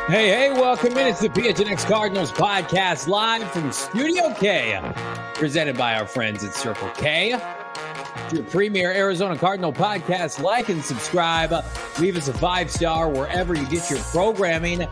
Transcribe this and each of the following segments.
Hey, welcome in. It's the PHNX Cardinals podcast live from Studio K, presented by our friends at Circle K. Your premier Arizona Cardinal podcast. Like and subscribe. Leave us a 5-star wherever you get your programming.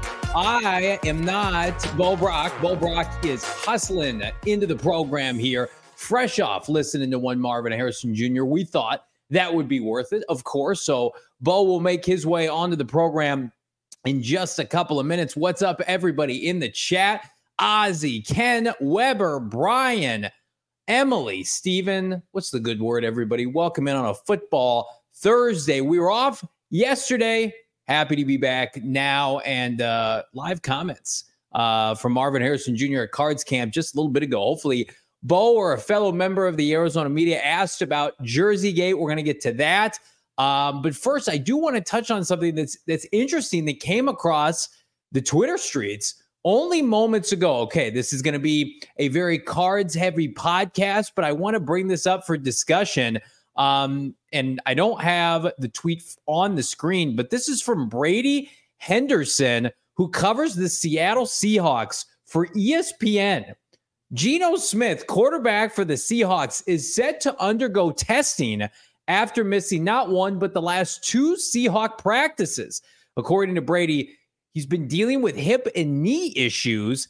I am not Bo Brock. Bo Brock is hustling into the program here, fresh off listening to one Marvin Harrison Jr. We thought that would be worth it, of course. So Bo will make his way onto the program in just a couple of minutes. What's up, everybody in the chat? Ozzy, Ken, Weber, Brian, Emily, Steven. What's the good word, everybody? Welcome in on a football Thursday. We were off yesterday. Happy to be back now. And live comments from Marvin Harrison Jr. at Cards Camp just a little bit ago. Hopefully, Bo or a fellow member of the Arizona media asked about Jersey Gate. We're going to get to that. But first, I do want to touch on something that's interesting that came across the Twitter streets only moments ago. Okay, this is going to be a very cards-heavy podcast, but I want to bring this up for discussion. And I don't have the tweet on the screen, but this is from Brady Henderson, who covers the Seattle Seahawks for ESPN. Geno Smith, quarterback for the Seahawks, is set to undergo testing after missing not one, but the last 2 Seahawk practices. According to Brady, he's been dealing with hip and knee issues.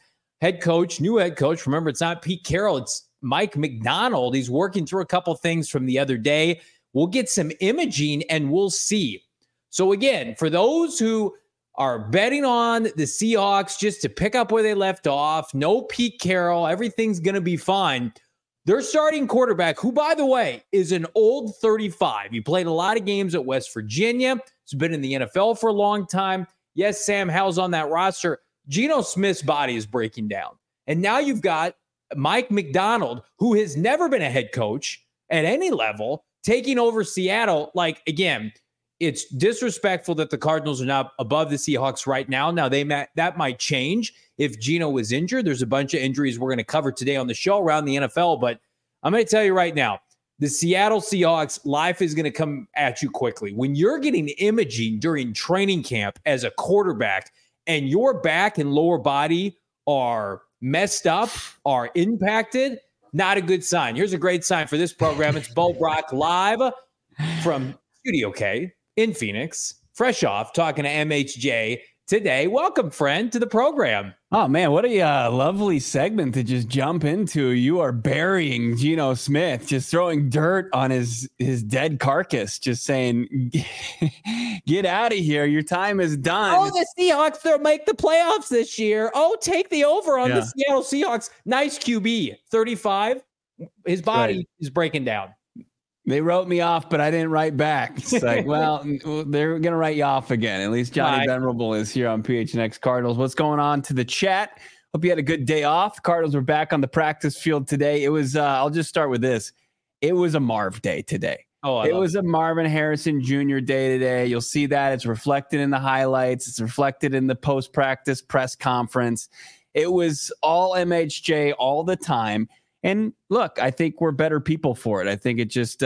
New head coach, remember, it's not Pete Carroll, it's Mike Macdonald. He's working through a couple things from the other day. We'll get some imaging and we'll see. So again, for those who are betting on the Seahawks just to pick up where they left off, no Pete Carroll, everything's going to be fine. Their starting quarterback, who, by the way, is an old 35. He played a lot of games at West Virginia. He's been in the NFL for a long time. Yes, Sam Howell's on that roster. Geno Smith's body is breaking down. And now you've got Mike Macdonald, who has never been a head coach at any level, taking over Seattle. Like, again, it's disrespectful that the Cardinals are not above the Seahawks right now. Now, that might change if Geno was injured. There's a bunch of injuries we're going to cover today on the show around the NFL, but I'm going to tell you right now, the Seattle Seahawks, life is going to come at you quickly. When you're getting imaging during training camp as a quarterback and your back and lower body are messed up, are impacted, not a good sign. Here's a great sign for this program. It's Bo Brock live from Studio K in Phoenix, fresh off talking to MHJ today. Welcome, friend, to the program. Oh, man, what a lovely segment to just jump into. You are burying Geno Smith, just throwing dirt on his dead carcass, just saying, get out of here. Your time is done. Oh, the Seahawks, they'll make the playoffs this year. Oh, take the over on the Seattle Seahawks. Nice QB, 35. His body is breaking down. They wrote me off, but I didn't write back. It's like, well, they're going to write you off again. At least Johnny Venerable is here on PHNX Cardinals. What's going on to the chat? Hope you had a good day off. Cardinals were back on the practice field today. It was, I'll just start with this. It was a Marv day today. It was a Marvin Harrison Jr. day today. You'll see that. It's reflected in the highlights. It's reflected in the post-practice press conference. It was all MHJ all the time. And look, I think we're better people for it. I think it just,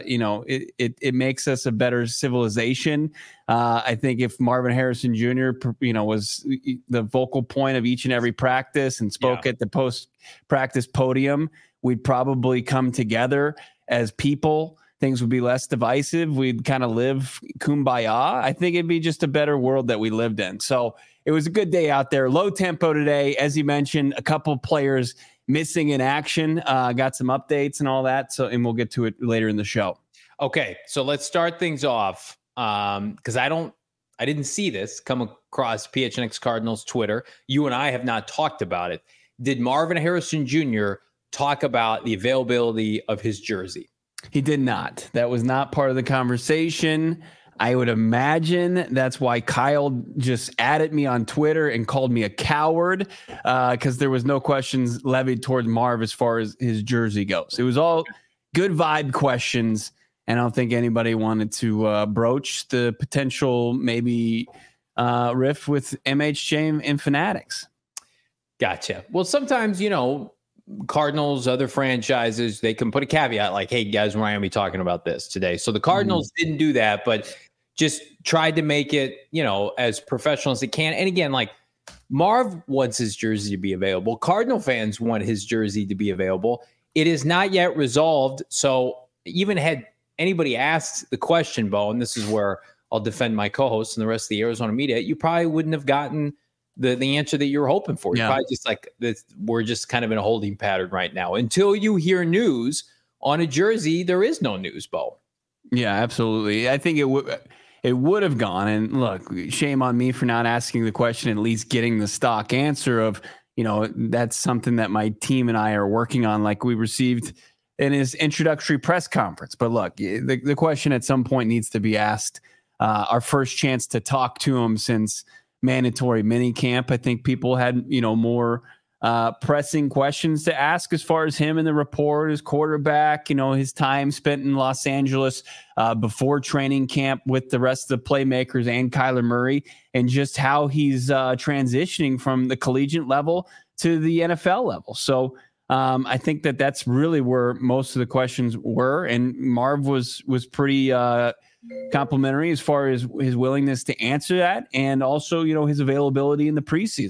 it makes us a better civilization. I think if Marvin Harrison Jr., was the vocal point of each and every practice and spoke at the post-practice podium, we'd probably come together as people. Things would be less divisive. We'd kind of live kumbaya. I think it'd be just a better world that we lived in. So it was a good day out there. Low tempo today. As you mentioned, a couple players missing in action, got some updates and all that. So, and we'll get to it later in the show. Okay. So let's start things off. Cause I didn't see this come across PHNX Cardinals Twitter. You and I have not talked about it. Did Marvin Harrison Jr. talk about the availability of his jersey? He did not. That was not part of the conversation. I would imagine that's why Kyle just added me on Twitter and called me a coward, because there was no questions levied toward Marv as far as his jersey goes. It was all good vibe questions, and I don't think anybody wanted to broach the potential maybe riff with MHJ and Fanatics. Gotcha. Well, sometimes, Cardinals, other franchises, they can put a caveat like, hey, guys, we're not going to be talking about this today. So the Cardinals didn't do that, but just tried to make it, as professional as it can. And again, like Marv wants his jersey to be available. Cardinal fans want his jersey to be available. It is not yet resolved. So even had anybody asked the question, Bo, and this is where I'll defend my co-host and the rest of the Arizona media, you probably wouldn't have gotten the answer that you were hoping for. You're probably just like, we're just kind of in a holding pattern right now. Until you hear news on a jersey, there is no news, Bo. Yeah, absolutely. I think it would have gone. And look, shame on me for not asking the question, at least getting the stock answer of, that's something that my team and I are working on, like we received in his introductory press conference. But look, the question at some point needs to be asked. Our first chance to talk to him since mandatory mini camp. I think people had, more pressing questions to ask as far as him and the report, his quarterback, his time spent in Los Angeles before training camp with the rest of the playmakers and Kyler Murray, and just how he's transitioning from the collegiate level to the NFL level. So I think that's really where most of the questions were. And Marv was pretty complimentary as far as his willingness to answer that, and also, his availability in the preseason.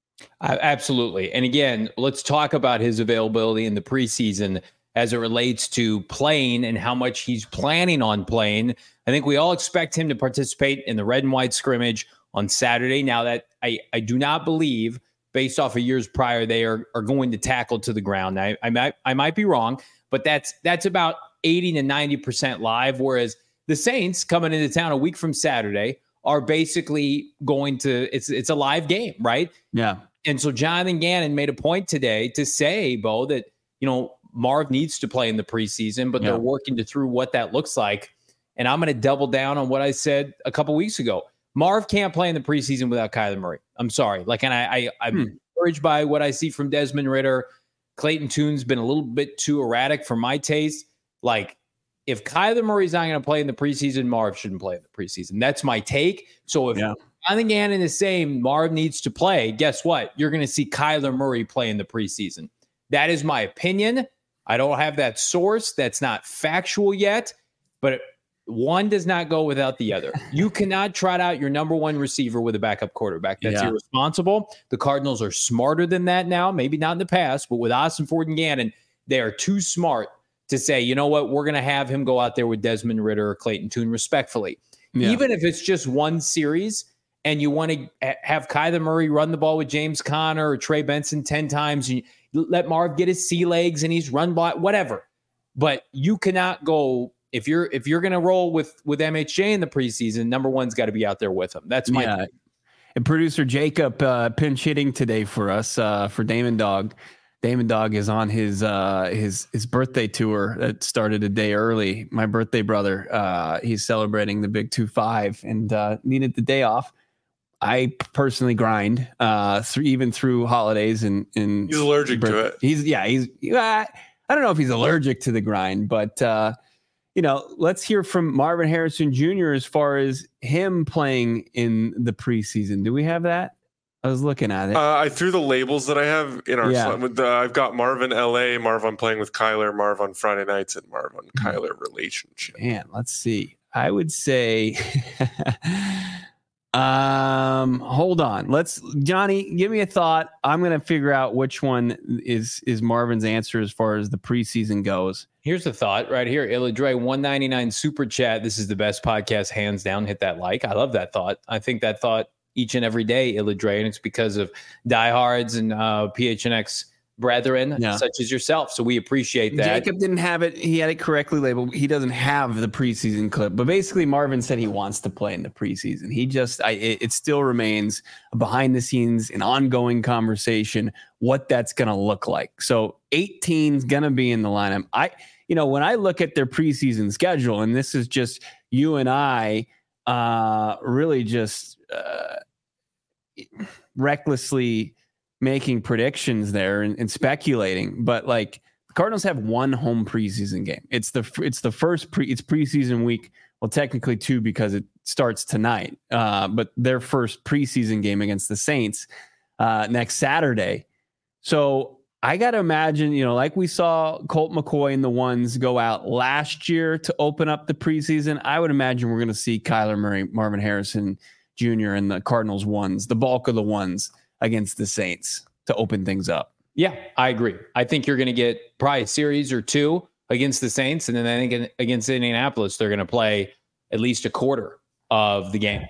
Absolutely. And again, let's talk about his availability in the preseason as it relates to playing and how much he's planning on playing. I think we all expect him to participate in the red and white scrimmage on Saturday. Now that I do not believe, based off of years prior, they are going to tackle to the ground. I might be wrong, but that's about 80 to 90% live. Whereas the Saints coming into town a week from Saturday are basically going to, it's a live game, right? Yeah. And so Jonathan Gannon made a point today to say, Bo, that, Marv needs to play in the preseason, but they're working through what that looks like. And I'm going to double down on what I said a couple weeks ago. Marv can't play in the preseason without Kyler Murray. I'm sorry. I'm encouraged by what I see from Desmond Ridder. Clayton Tune's been a little bit too erratic for my taste. Like, if Kyler Murray's not going to play in the preseason, Marv shouldn't play in the preseason. That's my take. So if Jonathan Gannon is saying Marv needs to play, guess what? You're going to see Kyler Murray play in the preseason. That is my opinion. I don't have that source. That's not factual yet, but one does not go without the other. You cannot trot out your number one receiver with a backup quarterback. That's irresponsible. The Cardinals are smarter than that now. Maybe not in the past, but with Ossenfort and Gannon, they are too smart to say, you know what, we're going to have him go out there with Desmond Ridder or Clayton Tune respectfully. Yeah. Even if it's just one series and you want to have Kyler Murray run the ball with James Conner or Trey Benson 10 times, and you let Marv get his sea legs and he's run by, whatever. But you cannot go, if you're going to roll with MHJ in the preseason, number one's got to be out there with him. That's my point. And producer Jacob pinch hitting today for us for Damon Dog. Damon Dog is on his birthday tour that started a day early. My birthday brother, he's celebrating the big 2-5 and needed the day off. I personally grind even through holidays and he's allergic to it. I don't know if he's allergic to the grind, but let's hear from Marvin Harrison Jr. as far as him playing in the preseason. Do we have that? I was looking at it. I threw the labels that I have in our slot. I've got Marv in LA, Marv on playing with Kyler, Marv on Friday nights, and Marv on Kyler relationship. Man, let's see. I would say, hold on. Johnny, give me a thought. I'm going to figure out which one is Marvin's answer as far as the preseason goes. Here's the thought right here. Illadre 199 super chat. This is the best podcast, hands down. Hit that like. I love that thought. I think that thought each and every day, Illadre, and it's because of diehards and PHNX brethren such as yourself. So we appreciate that. Jacob didn't have it. He had it correctly labeled. He doesn't have the preseason clip, but basically Marvin said he wants to play in the preseason. It still remains behind the scenes, an ongoing conversation, what that's going to look like. So 18's going to be in the lineup. When I look at their preseason schedule, and this is just you and I really just recklessly making predictions there and speculating, but like the Cardinals have one home preseason game. It's the first preseason week. Well, technically two because it starts tonight. But their first preseason game against the Saints next Saturday. So I got to imagine, like we saw Colt McCoy and the ones go out last year to open up the preseason. I would imagine we're going to see Kyler Murray, Marvin Harrison Jr. and the Cardinals ones, the bulk of the ones against the Saints to open things up. Yeah, I agree. I think you're going to get probably a series or two against the Saints. And then I think against Indianapolis, they're going to play at least a quarter of the game.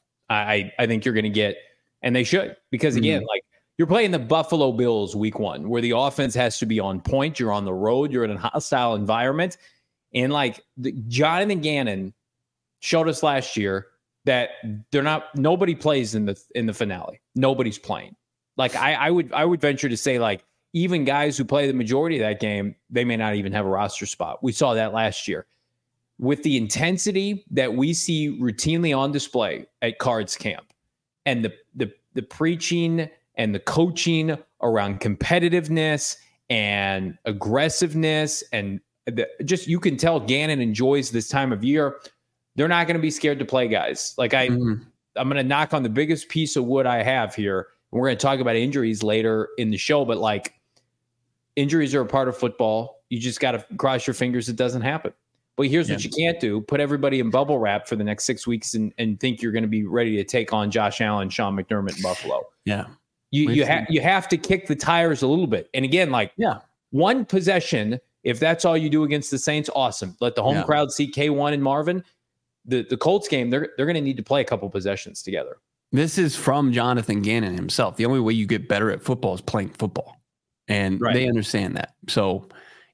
I think you're going to get, and they should, because again, like, you're playing the Buffalo Bills week 1, where the offense has to be on point. You're on the road. You're in a hostile environment. And like Jonathan Gannon showed us last year that nobody plays in the finale. Nobody's playing. Like I would venture to say, like, even guys who play the majority of that game, they may not even have a roster spot. We saw that last year. With the intensity that we see routinely on display at Cards Camp, and the preaching and the coaching around competitiveness and aggressiveness, and just, you can tell Gannon enjoys this time of year. They're not going to be scared to play guys. Like I'm going to knock on the biggest piece of wood I have here. And we're going to talk about injuries later in the show, but like, injuries are a part of football. You just got to cross your fingers it doesn't happen. But here's what you can't do: put everybody in bubble wrap for the next 6 weeks and think you're going to be ready to take on Josh Allen, Sean McDermott in Buffalo. Yeah. You have to kick the tires a little bit. And again, like, one possession, if that's all you do against the Saints, awesome. Let the home crowd see K1 and Marvin. The Colts game, they're going to need to play a couple possessions together. This is from Jonathan Gannon himself. The only way you get better at football is playing football. And they understand that. So,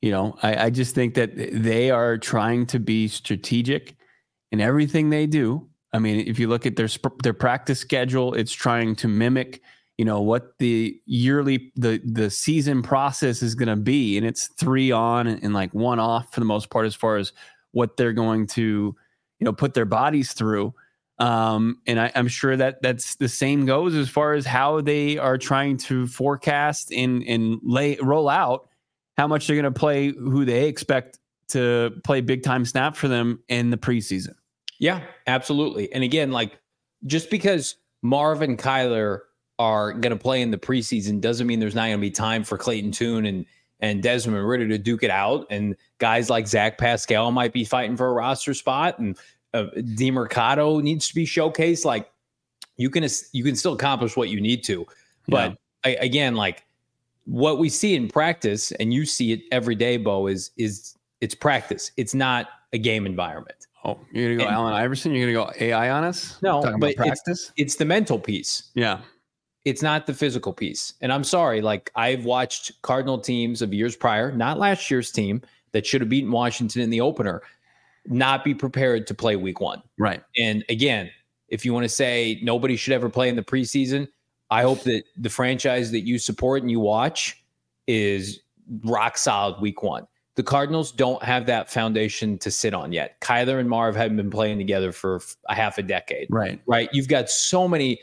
I just think that they are trying to be strategic in everything they do. I mean, if you look at their practice schedule, it's trying to mimic what the yearly, the season process is going to be. And it's 3 on and like 1 off for the most part, as far as what they're going to, put their bodies through. And I'm sure that's the same goes as far as how they are trying to forecast and roll out how much they're going to play, who they expect to play big time snap for them in the preseason. Yeah, absolutely. And again, like, just because Marv and Kyler are going to play in the preseason doesn't mean there's not going to be time for Clayton Tune and Desmond Ridder to duke it out. And guys like Zach Pascal might be fighting for a roster spot, and DeMercado needs to be showcased. Like, you can still accomplish what you need to. But again, like, what we see in practice, and you see it every day, Bo, is it's practice. It's not a game environment. Oh, you're going to go Allen Iverson? You're going to go AI on us? No, but it's the mental piece. Yeah. It's not the physical piece. And I'm sorry, like, I've watched Cardinal teams of years prior, not last year's team that should have beaten Washington in the opener, not be prepared to play week 1. Right. And again, if you want to say nobody should ever play in the preseason, I hope that the franchise that you support and you watch is rock solid week 1. The Cardinals don't have that foundation to sit on yet. Kyler and Marv haven't been playing together for a half a decade. Right. You've got so many.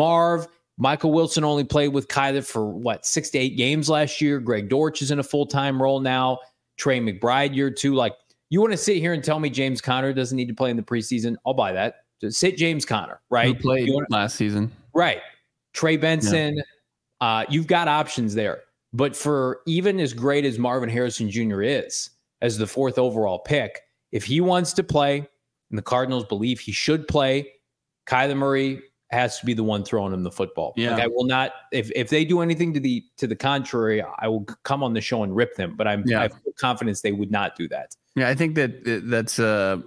Michael Wilson only played with Kyler for 6 to 8 games last year. Greg Dortch is in a full-time role now. Trey McBride year 2. Like, you want to sit here and tell me James Conner doesn't need to play in the preseason? I'll buy that. Just sit James Conner, right? Who played last season. Right. Trey Benson. Yeah. You've got options there. But for even as great as Marvin Harrison Jr. is, as the 4th overall pick, if he wants to play, and the Cardinals believe he should play, Kyler Murray has to be the one throwing him the football. Yeah. Like, I will not, if they do anything to the contrary, I will come on the show and rip them. But I have confidence they would not do that. Yeah, I think that's a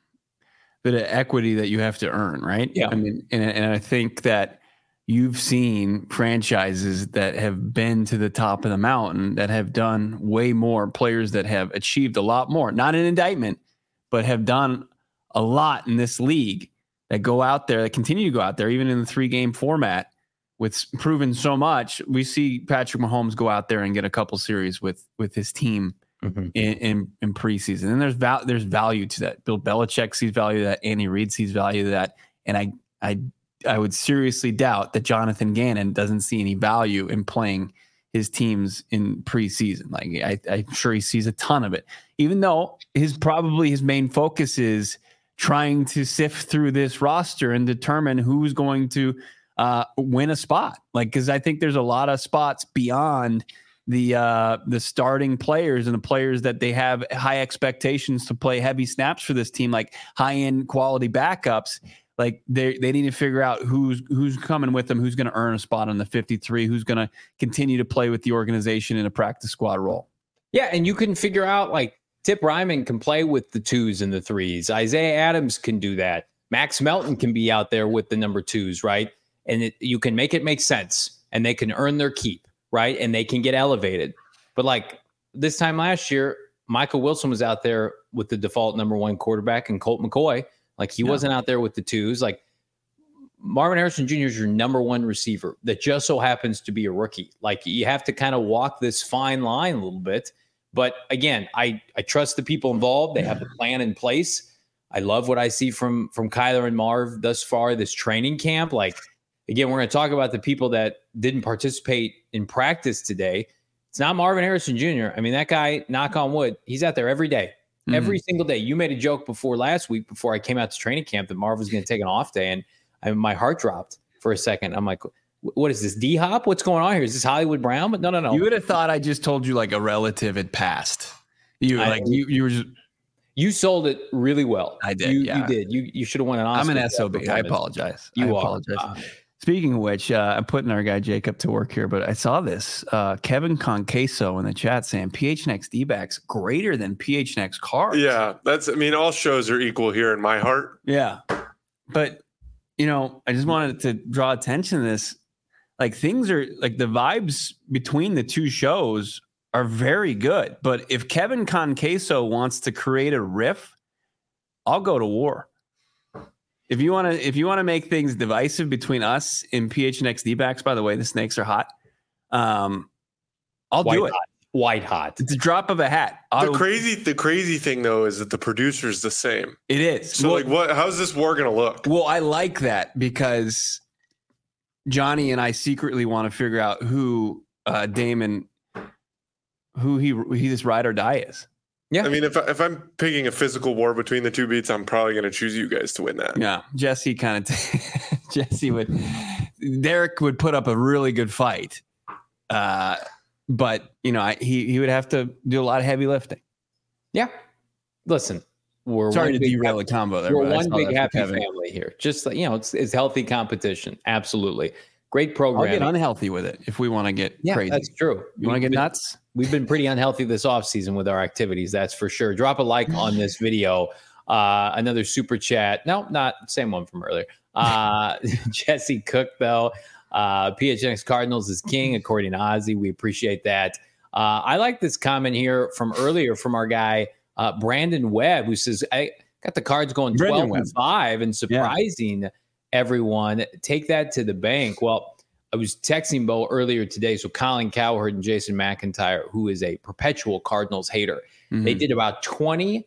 bit of equity that you have to earn, right? Yeah. I mean, and I think that you've seen franchises that have been to the top of the mountain that have done way more, players that have achieved a lot more, not an indictment, but have done a lot in this league, that go out there, that continue to go out there, even in the 3-game format, with proven so much. We see Patrick Mahomes go out there and get a couple series with his team in preseason. And there's value to that. Bill Belichick sees value to that. Andy Reid sees value to that. And I would seriously doubt that Jonathan Gannon doesn't see any value in playing his teams in preseason. Like, I'm sure he sees a ton of it, even though his main focus is trying to sift through this roster and determine who's going to win a spot. Like, because I think there's a lot of spots beyond the starting players and the players that they have high expectations to play heavy snaps for this team, like high-end quality backups. Like they need to figure out who's coming with them, who's going to earn a spot on the 53, who's going to continue to play with the organization in a practice squad role. Yeah, and you can figure out, like, Tip Ryman can play with the 2s and the 3s. Isaiah Adams can do that. Max Melton can be out there with the number 2s, right? And you can make it make sense, and they can earn their keep, right? And they can get elevated. But, like, this time last year, Michael Wilson was out there with the default number 1 quarterback and Colt McCoy. Like, he wasn't out there with the 2s. Like, Marvin Harrison Jr. is your number 1 receiver that just so happens to be a rookie. Like, you have to kind of walk this fine line a little bit. But again, I trust the people involved. They have the plan in place. I love what I see from Kyler and Marv thus far this training camp. Like, again, we're going to talk about the people that didn't participate in practice today. It's not Marvin Harrison Jr. I mean, that guy, knock on wood, he's out there every day. Every single day. You made a joke last week before I came out to training camp that Marv was going to take an off day, and my heart dropped for a second. I'm like, what is this, D-Hop? What's going on here? Is this Hollywood Brown? But no. You would have thought I just told you like a relative had passed. You were just... You sold it really well. I did. You did. You should have won an Oscar. I'm an SOB. I apologize. I apologize. Speaking of which, I'm putting our guy Jacob to work here, but I saw this. Kevin Conqueso in the chat saying PHNX D-backs greater than PHNX Cards. Yeah, all shows are equal here in my heart. Yeah. But, I just wanted to draw attention to this. Like, things are like the vibes between the two shows are very good. But if Kevin Conqueso wants to create a riff, I'll go to war. If you want to make things divisive between us and PHNX D-backs, by the way, the snakes are hot. I'll do it. White hot. It's a drop of a hat. The crazy thing though is that the producer's the same. It is. So how's this war gonna look? Well, I like that because Johnny and I secretly want to figure out who Damon, who he this ride or die is. Yeah. I mean, if I'm picking a physical war between the two beats, I'm probably going to choose you guys to win that. Yeah. Jesse Derek would put up a really good fight. But he would have to do a lot of heavy lifting. Yeah. Listen, sorry to derail the combo there. We're one big happy family here. Just like, it's healthy competition. Absolutely. Great program. I'll get unhealthy with it if we want to get crazy. That's true. You want to get nuts? We've been pretty unhealthy this offseason with our activities. That's for sure. Drop a like on this video. Another super chat. No, not same one from earlier. Jesse Cook, though. PHNX Cardinals is king, according to Ozzy. We appreciate that. I like this comment here from earlier from our guy, Brandon Webb, who says, I got the Cards going 12-5 and surprising everyone. Take that to the bank. Well, I was texting Bo earlier today. So Colin Cowherd and Jason McIntyre, who is a perpetual Cardinals hater, they did about 20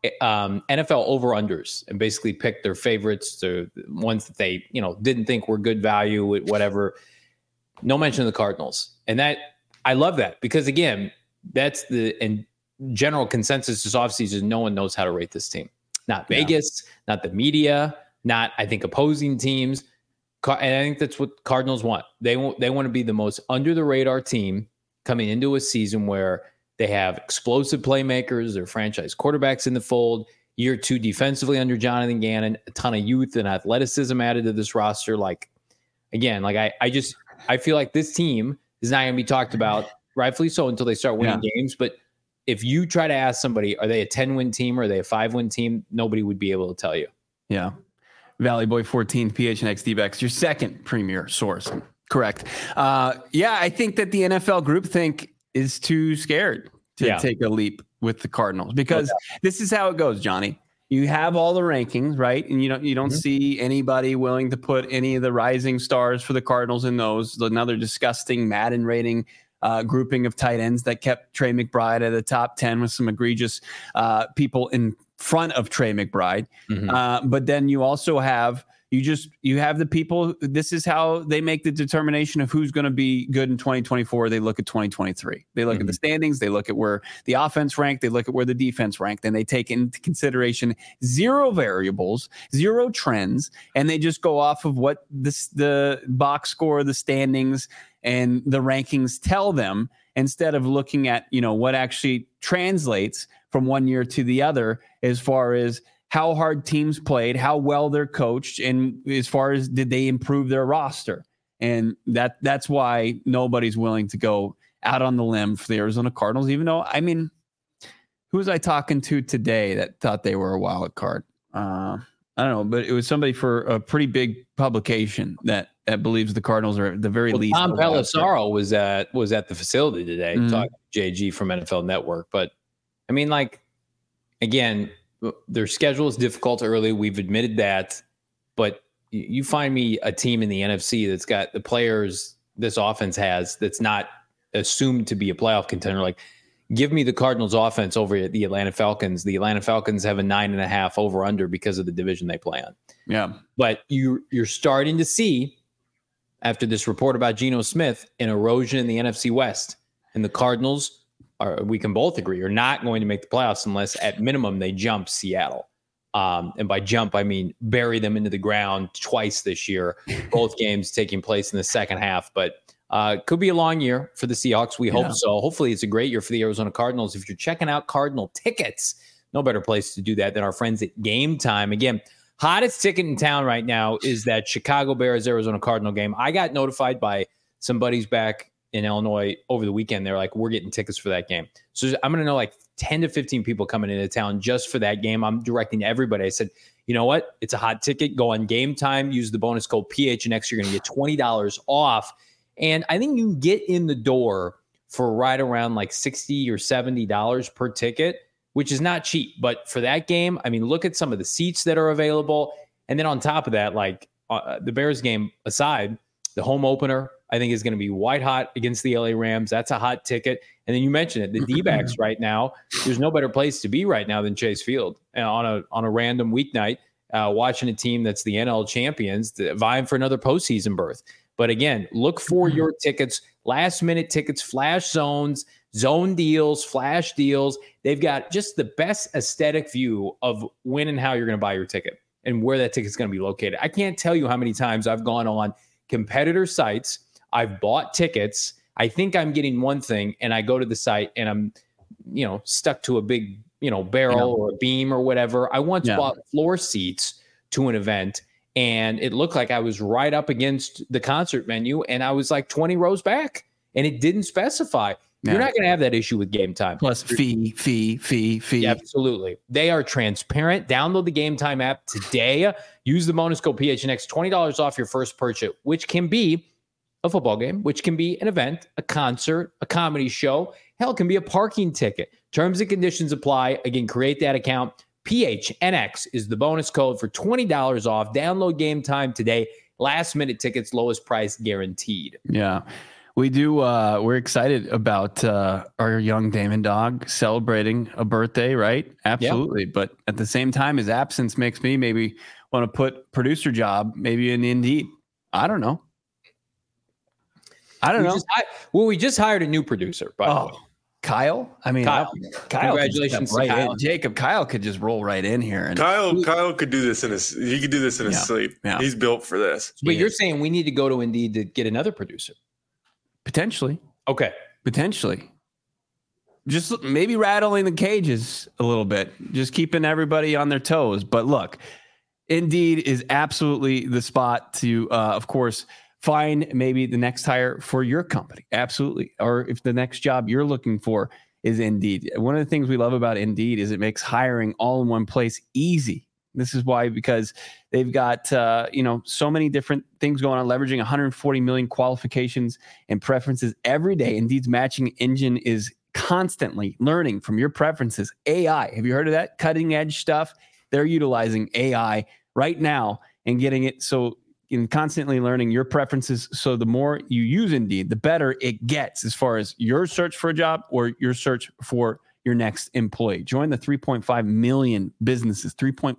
NFL over-unders and basically picked their favorites, the ones that they, didn't think were good value, whatever. No mention of the Cardinals. And that, I love that because, again, that's the general consensus this offseason. No one knows how to rate this team. Not Vegas, not the media, not, I think, opposing teams. And I think that's what Cardinals want. They want to be the most under-the-radar team coming into a season where they have explosive playmakers, their franchise quarterbacks in the fold, year 2 defensively under Jonathan Gannon, a ton of youth and athleticism added to this roster. Like, again, like I feel like this team is not going to be talked about, rightfully so, until they start winning games. But if you try to ask somebody, are they a 10-win team or are they a 5-win team? Nobody would be able to tell you. Yeah. Valley Boy 14, PHNX D-backs, your second premier source. Correct. I think that the NFL groupthink is too scared to take a leap with the Cardinals because this is how it goes, Johnny. You have all the rankings, right? And you don't see anybody willing to put any of the rising stars for the Cardinals in those. Another disgusting Madden rating grouping of tight ends that kept Trey McBride at the top 10 with some egregious people in front of Trey McBride. But then you also have, You have the people. This is how they make the determination of who's going to be good in 2024. They look at 2023. They look at the standings. They look at where the offense ranked. They look at where the defense ranked. And they take into consideration 0 variables, 0 trends, and they just go off of what the box score, the standings, and the rankings tell them, instead of looking at, what actually translates from one year to the other as far as how hard teams played, how well they're coached, and as far as did they improve their roster. And that's why nobody's willing to go out on the limb for the Arizona Cardinals, even though, who was I talking to today that thought they were a wild card? I don't know, but it was somebody for a pretty big publication that believes the Cardinals are at the very least. Tom Pelissero was at the facility today talking to JG from NFL Network. But again, their schedule is difficult early. We've admitted that. But you find me a team in the NFC that's got the players this offense has that's not assumed to be a playoff contender. Like, give me the Cardinals offense over at the Atlanta Falcons. The Atlanta Falcons have a 9.5 over under because of the division they play on. Yeah. But you're starting to see, after this report about Geno Smith, an erosion in the NFC West. And the Cardinals, we can both agree, are not going to make the playoffs unless at minimum they jump Seattle. And by jump, I mean bury them into the ground twice this year, both games taking place in the second half. But could be a long year for the Seahawks. We hope so. Hopefully it's a great year for the Arizona Cardinals. If you're checking out Cardinal tickets, no better place to do that than our friends at Game Time. Again, hottest ticket in town right now is that Chicago Bears Arizona Cardinal game. I got notified by some buddies back in Illinois over the weekend. They're like, we're getting tickets for that game. So I'm going to know like 10 to 15 people coming into town just for that game. I'm directing to everybody. I said, you know what? It's a hot ticket. Go on Game Time. Use the bonus code PHNX. You're going to get $20 off. And I think you can get in the door for right around like $60 or $70 per ticket, which is not cheap. But for that game, look at some of the seats that are available. And then on top of that, the Bears game aside, the home opener, I think, is going to be white hot against the LA Rams. That's a hot ticket. And then you mentioned it, the D-backs right now, there's no better place to be right now than Chase Field on a random weeknight, watching a team that's the NL champions vying for another postseason berth. But again, look for your tickets, last-minute tickets, flash zones, zone deals, flash deals. They've got just the best aesthetic view of when and how you're going to buy your ticket and where that ticket's going to be located. I can't tell you how many times I've gone on competitor sites. I've bought tickets. I think I'm getting one thing, and I go to the site, and I'm, stuck to a big, barrel or a beam or whatever. I once bought floor seats to an event, and it looked like I was right up against the concert venue, and I was like 20 rows back, and it didn't specify. Yeah. You're not going to have that issue with Game Time. Plus fee. Yeah, absolutely. They are transparent. Download the Game Time app today. Use the bonus code PHNX, $20 off your first purchase, which can be a football game, which can be an event, a concert, a comedy show. Hell, it can be a parking ticket. Terms and conditions apply. Again, create that account. PHNX is the bonus code for $20 off. Download Game Time today. Last minute tickets, lowest price guaranteed. Yeah, we do. We're excited about our young Damon dog celebrating a birthday, right? Absolutely. Yep. But at the same time, his absence makes me maybe want to put producer job maybe in Indeed. I don't know. We just hired a new producer, by the way. Kyle? Kyle. Congratulations to Kyle. Jacob, Kyle could just roll right in here. And Kyle could do this in his sleep. Yeah. He's built for this. But you're saying we need to go to Indeed to get another producer? Potentially. Okay. Potentially. Just maybe rattling the cages a little bit, just keeping everybody on their toes. But look, Indeed is absolutely the spot to, of course, find maybe the next hire for your company. Absolutely. Or if the next job you're looking for is Indeed. One of the things we love about Indeed is it makes hiring all in one place easy. This is why, because they've got, so many different things going on, leveraging 140 million qualifications and preferences every day. Indeed's matching engine is constantly learning from your preferences. AI, have you heard of that? Cutting edge stuff. They're utilizing AI right now and getting it so in constantly learning your preferences. So the more you use Indeed, the better it gets as far as your search for a job or your search for your next employee. Join the 3.5 million businesses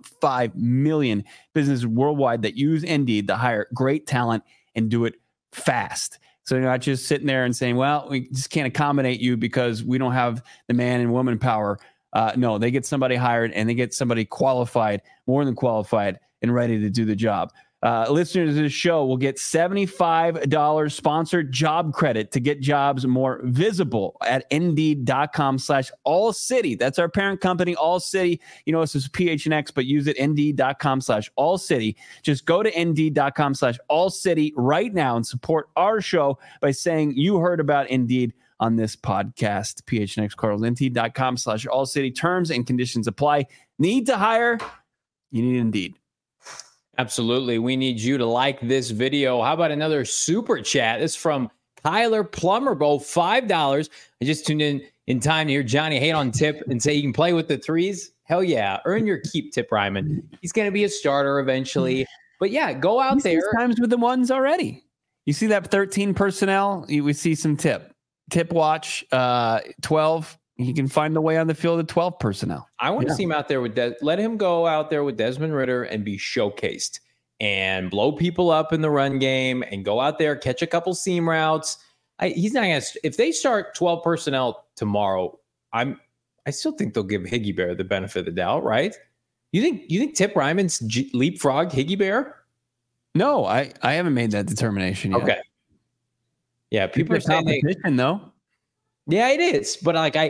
worldwide that use Indeed to hire great talent and do it fast. So you're not just sitting there and saying, well, we just can't accommodate you because we don't have the man and woman power. No, they get somebody hired and they get somebody qualified, more than qualified, and ready to do the job. Listeners of this show will get $75 sponsored job credit to get jobs more visible at Indeed.com/allcity. That's our parent company, All City. You know, this is PHNX, but use it, Indeed.com/allcity. Just go to Indeed.com/allcity right now and support our show by saying you heard about Indeed on this podcast. PHNX Cardinals, Indeed.com/allcity. Terms and conditions apply. Need to hire? You need Indeed. Absolutely. We need you to like this video. How about another super chat? This is from Kyler Plummer, both $5. I just tuned in time to hear Johnny hate on Tip and say he can play with the threes. Hell yeah. Earn your keep, Tip Ryman. He's going to be a starter eventually. But yeah, go out there. Times with the ones already. You see that 13 personnel? We see some Tip watch, 12. He can find the way on the field at 12 personnel. I want to see him out there with let him go out there with Desmond Ridder and be showcased and blow people up in the run game and go out there, catch a couple seam routes. He's not going to, if they start 12 personnel tomorrow, I still think they'll give Higgy Bear the benefit of the doubt, right? You think Tip Ryman's leapfrog Higgy Bear? No, I haven't made that determination yet. Okay. Yeah, people are saying competition though. Yeah, it is. But I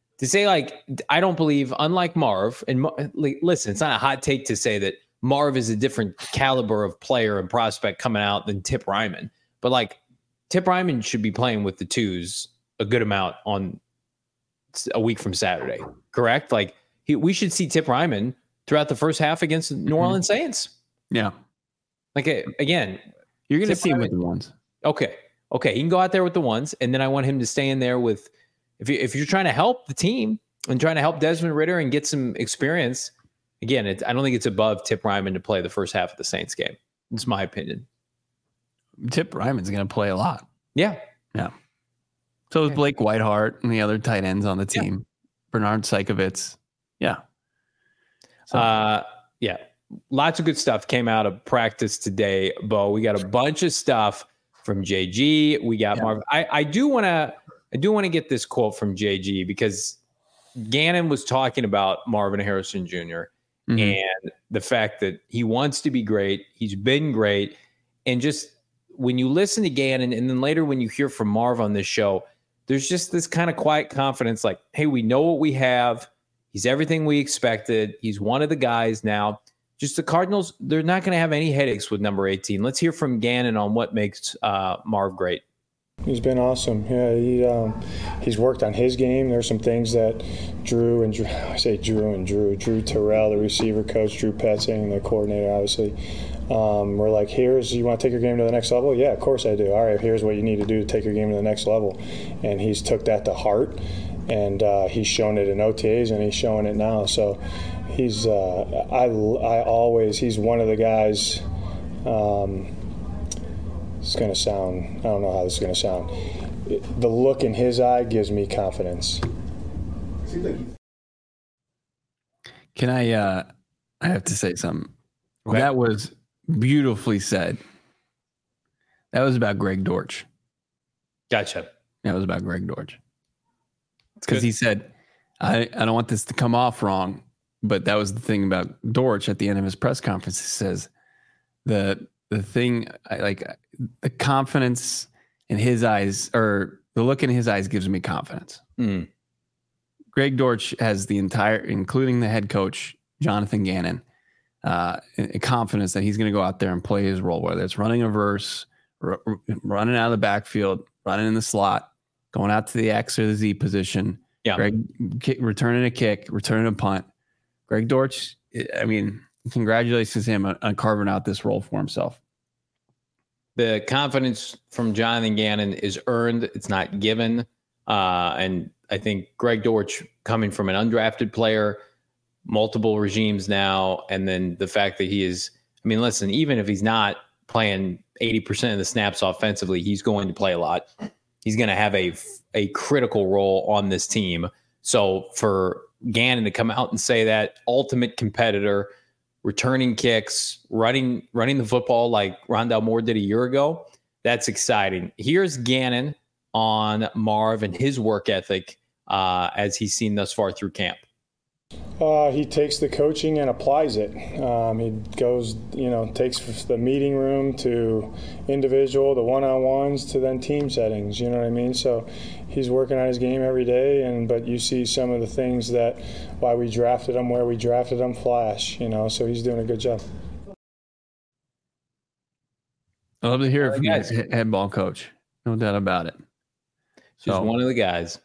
don't believe, unlike Marv, and listen, it's not a hot take to say that Marv is a different caliber of player and prospect coming out than Tip Ryman. But Tip Ryman should be playing with the twos a good amount on a week from Saturday, correct? We should see Tip Ryman throughout the first half against the New Orleans Saints. Yeah. Again, you're going to see him with the ones. Okay, he can go out there with the ones, and then I want him to stay in there with, if you're trying to help the team and trying to help Desmond Ridder and get some experience, again, I don't think it's above Tip Ryman to play the first half of the Saints game. It's my opinion. Tip Ryman's going to play a lot. Yeah. So is Blake Whiteheart and the other tight ends on the team. Bernard Seikovits. Yeah. Lots of good stuff came out of practice today, Bo. We got a bunch of stuff from JG. We got Marvin. I do want to get this quote from JG because Gannon was talking about Marvin Harrison Jr. And the fact that he wants to be great. He's been great. And just when you listen to Gannon and then later when you hear from Marv on this show, there's just this kind of quiet confidence like, hey, we know what we have. He's everything we expected. He's one of the guys now. Just the Cardinals, they're not going to have any headaches with number 18. Let's hear from Gannon on what makes Marv great. He's been awesome. Yeah, he's worked on his game. There's some things that Drew Terrell, the receiver coach, Drew Petzing, the coordinator, obviously, we're like, you want to take your game to the next level? Yeah, of course I do. All right, here's what you need to do to take your game to the next level. And he's took that to heart, and he's shown it in OTAs, and he's showing it now. So he's he's one of the guys. It's going to sound, I don't know how this is going to sound. The look in his eye gives me confidence. Can I have to say something. Okay. That was beautifully said. That was about Greg Dortch. Gotcha. That was about Greg Dortch. Because he said, I don't want this to come off wrong, but that was the thing about Dortch at the end of his press conference. He says the thing, the confidence in his eyes, or the look in his eyes, gives me confidence. Greg Dortch has the entire, including the head coach, Jonathan Gannon, confidence that he's going to go out there and play his role, whether it's running a verse, running out of the backfield, running in the slot, going out to the X or the Z position. Yeah. Greg returning a kick, returning a punt. Greg Dortch, I mean, congratulations to him on carving out this role for himself. The confidence from Jonathan Gannon is earned. It's not given. And I think Greg Dortch, coming from an undrafted player, multiple regimes now, and then the fact that he is, I mean, listen, even if he's not playing 80% of the snaps offensively, he's going to play a lot. He's going to have a critical role on this team. So for Gannon to come out and say that, ultimate competitor, returning kicks, running the football like Rondale Moore did a year ago, that's exciting. Here's Gannon on Marv and his work ethic as he's seen thus far through camp. He takes the coaching and applies it. He goes, takes the meeting room to individual, the one-on-ones, to then team settings. You know what I mean? So he's working on his game every day, but you see some of the things that why we drafted him where we drafted him flash. So he's doing a good job. I love to hear it from the head ball coach. No doubt about it. Just one of the guys.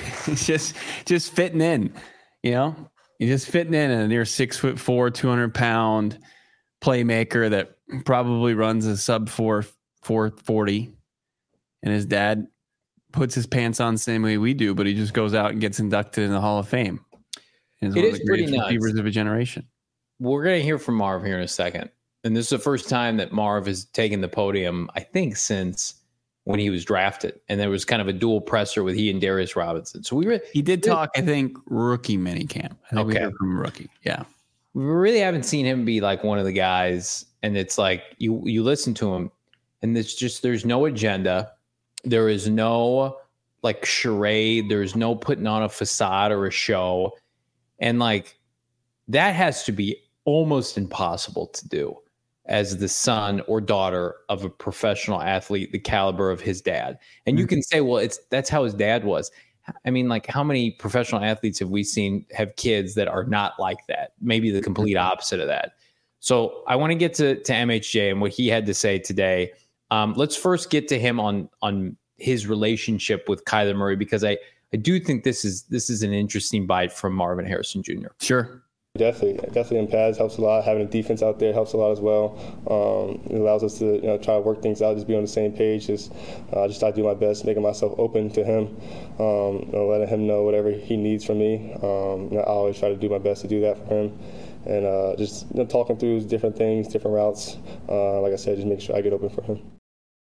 just fitting in, You're just fitting in, and you're 6'4", 200-pound playmaker that probably runs a sub 440, and his dad puts his pants on the same way we do, but he just goes out and gets inducted in the Hall of Fame. It is pretty nuts. Receivers of a generation. We're going to hear from Marv here in a second, and this is the first time that Marv has taken the podium, I think, since when he was drafted, and there was kind of a dual presser with he and Darius Robinson. So he did talk, I think, rookie minicamp. We heard from rookie. Yeah. We really haven't seen him be like one of the guys. And it's like, you listen to him and there's no agenda. There is no like charade. There's no putting on a facade or a show. And like, that has to be almost impossible to do as the son or daughter of a professional athlete, the caliber of his dad. And you can say, well, that's how his dad was. I mean, like, how many professional athletes have we seen have kids that are not like that? Maybe the complete opposite of that. So I want to get to MHJ and what he had to say today. Let's first get to him on his relationship with Kyler Murray, because I do think this is an interesting bite from Marvin Harrison Jr. Sure. Definitely in pads helps a lot. Having a defense out there helps a lot as well. It allows us to try to work things out, just be on the same page. Just try to do my best, making myself open to him, letting him know whatever he needs from me. I always try to do my best to do that for him, and just talking through different things, different routes. Like I said, just make sure I get open for him.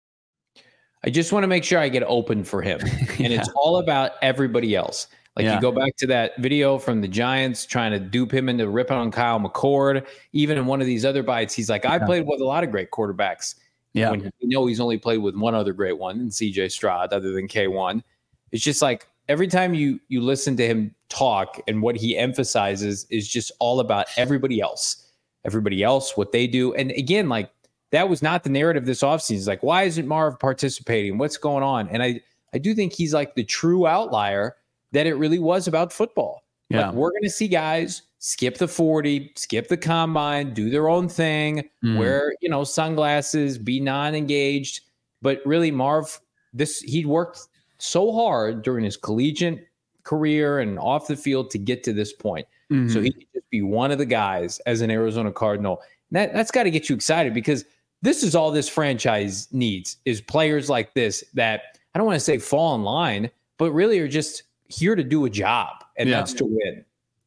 I just want to make sure I get open for him, and it's all about everybody else. You go back to that video from the Giants trying to dupe him into ripping on Kyle McCord. Even in one of these other bites, he's like, I played with a lot of great quarterbacks. Yeah. When he's only played with one other great one, and CJ Stroud, other than K1. It's just like every time you listen to him talk, and what he emphasizes is just all about everybody else, what they do. And again, like, that was not the narrative this offseason. It's like, why isn't Marv participating? What's going on? And I do think he's like the true outlier, that it really was about football. Yeah. Like, we're going to see guys skip the 40, skip the combine, do their own thing, wear, sunglasses, be non-engaged. But really, Marv, he worked so hard during his collegiate career and off the field to get to this point. Mm-hmm. So he could just be one of the guys as an Arizona Cardinal. That's got to get you excited, because this is all this franchise needs, is players like this that, I don't want to say fall in line, but really are just here to do a job, and that's to win.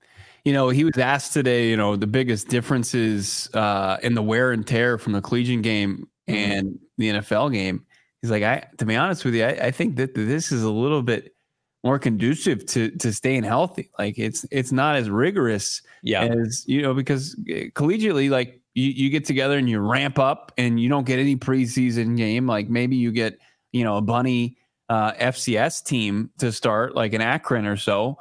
He was asked today, the biggest differences in the wear and tear from the collegiate game and the NFL game. He's like, to be honest with you, I think that this is a little bit more conducive to staying healthy. Like, it's not as rigorous as, because collegiately, like, you get together and you ramp up, and you don't get any preseason game. Like, maybe you get, a bunny FCS team to start, like an Akron or so.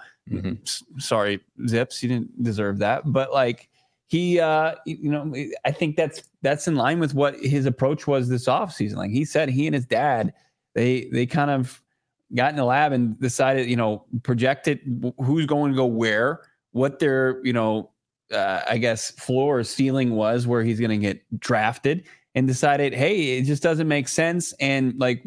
Sorry, Zips, you didn't deserve that. But like, he, I think that's in line with what his approach was this offseason. Like he said, he and his dad, they kind of got in the lab and decided, projected who's going to go where, what their, I guess floor or ceiling was, where he's going to get drafted, and decided, hey, it just doesn't make sense. And like,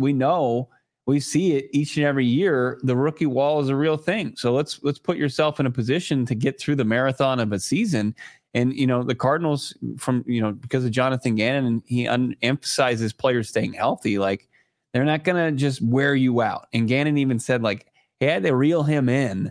we see it each and every year. The rookie wall is a real thing. So let's put yourself in a position to get through the marathon of a season. And, the Cardinals, from, because of Jonathan Gannon, and he emphasizes players staying healthy, like, they're not going to just wear you out. And Gannon even said, like, he had to reel him in,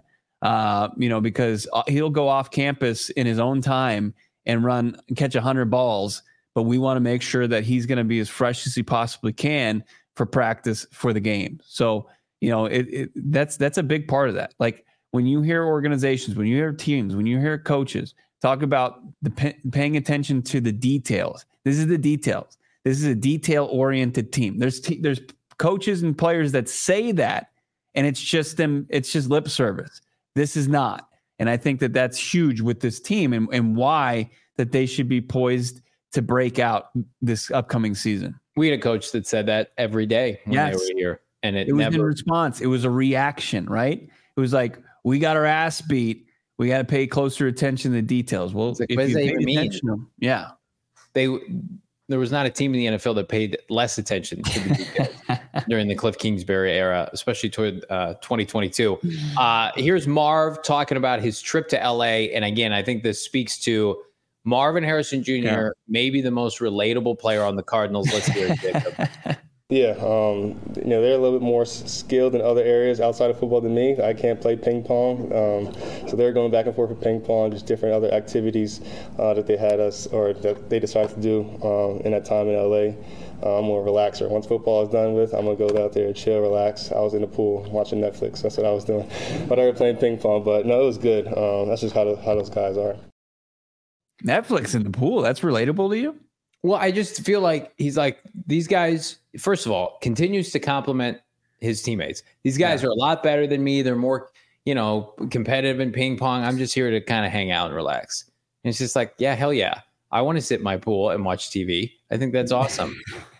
because he'll go off campus in his own time and catch 100 balls. But we want to make sure that he's going to be as fresh as he possibly can for practice for the game. So, that's a big part of that. Like, when you hear organizations, when you hear teams, when you hear coaches talk about paying attention to the details, this is the details. This is a detail-oriented team. There's coaches and players that say that, and it's just lip service. This is not. And I think that that's huge with this team and why that they should be poised to break out this upcoming season. We had a coach that said that every day when they were here. And it was never in response. It was a reaction, right? It was like, we got our ass beat. We got to pay closer attention to the details. Well, like, if what does you that pay even attention to them, yeah. There was not a team in the NFL that paid less attention to the details during the Cliff Kingsbury era, especially toward 2022. Here's Marv talking about his trip to LA. And again, I think this speaks to Marvin Harrison Jr., maybe the most relatable player on the Cardinals. Let's hear it, Jacob. Yeah, they're a little bit more skilled in other areas outside of football than me. I can't play ping pong, so they're going back and forth with ping pong, just different other activities that they had us or that they decided to do in that time in LA. I'm more relaxer. Once football is done with, I'm gonna go out there, chill, relax. I was in the pool watching Netflix. That's what I was doing. But I was playing ping pong. But no, it was good. That's just how those guys are. Netflix in the pool. That's relatable to you? Well, I just feel like he's like, these guys, first of all, continues to compliment his teammates. These guys are a lot better than me. They're more, competitive in ping pong. I'm just here to kind of hang out and relax. And it's just like, yeah, hell yeah. I want to sit in my pool and watch TV. I think that's awesome.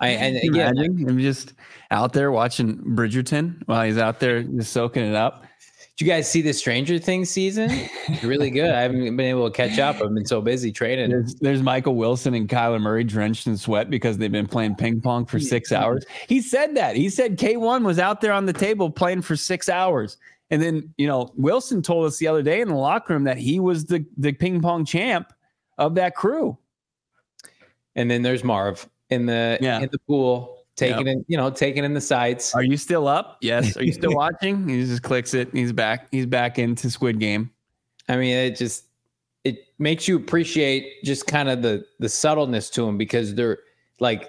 I'm just out there watching Bridgerton while he's out there just soaking it up. Did you guys see the Stranger Things season? It's really good. I haven't been able to catch up. I've been so busy training. There's Michael Wilson and Kyler Murray drenched in sweat because they've been playing ping pong for 6 hours. He said that. He said K1 was out there on the table playing for 6 hours. And then, Wilson told us the other day in the locker room that he was the ping pong champ of that crew. And then there's Marv in the pool. Taking in the sights. Are you still up? Yes. Are you still watching? He just clicks it. He's back. He's back into Squid Game. I mean, it makes you appreciate just kind of the subtleness to him because they're like,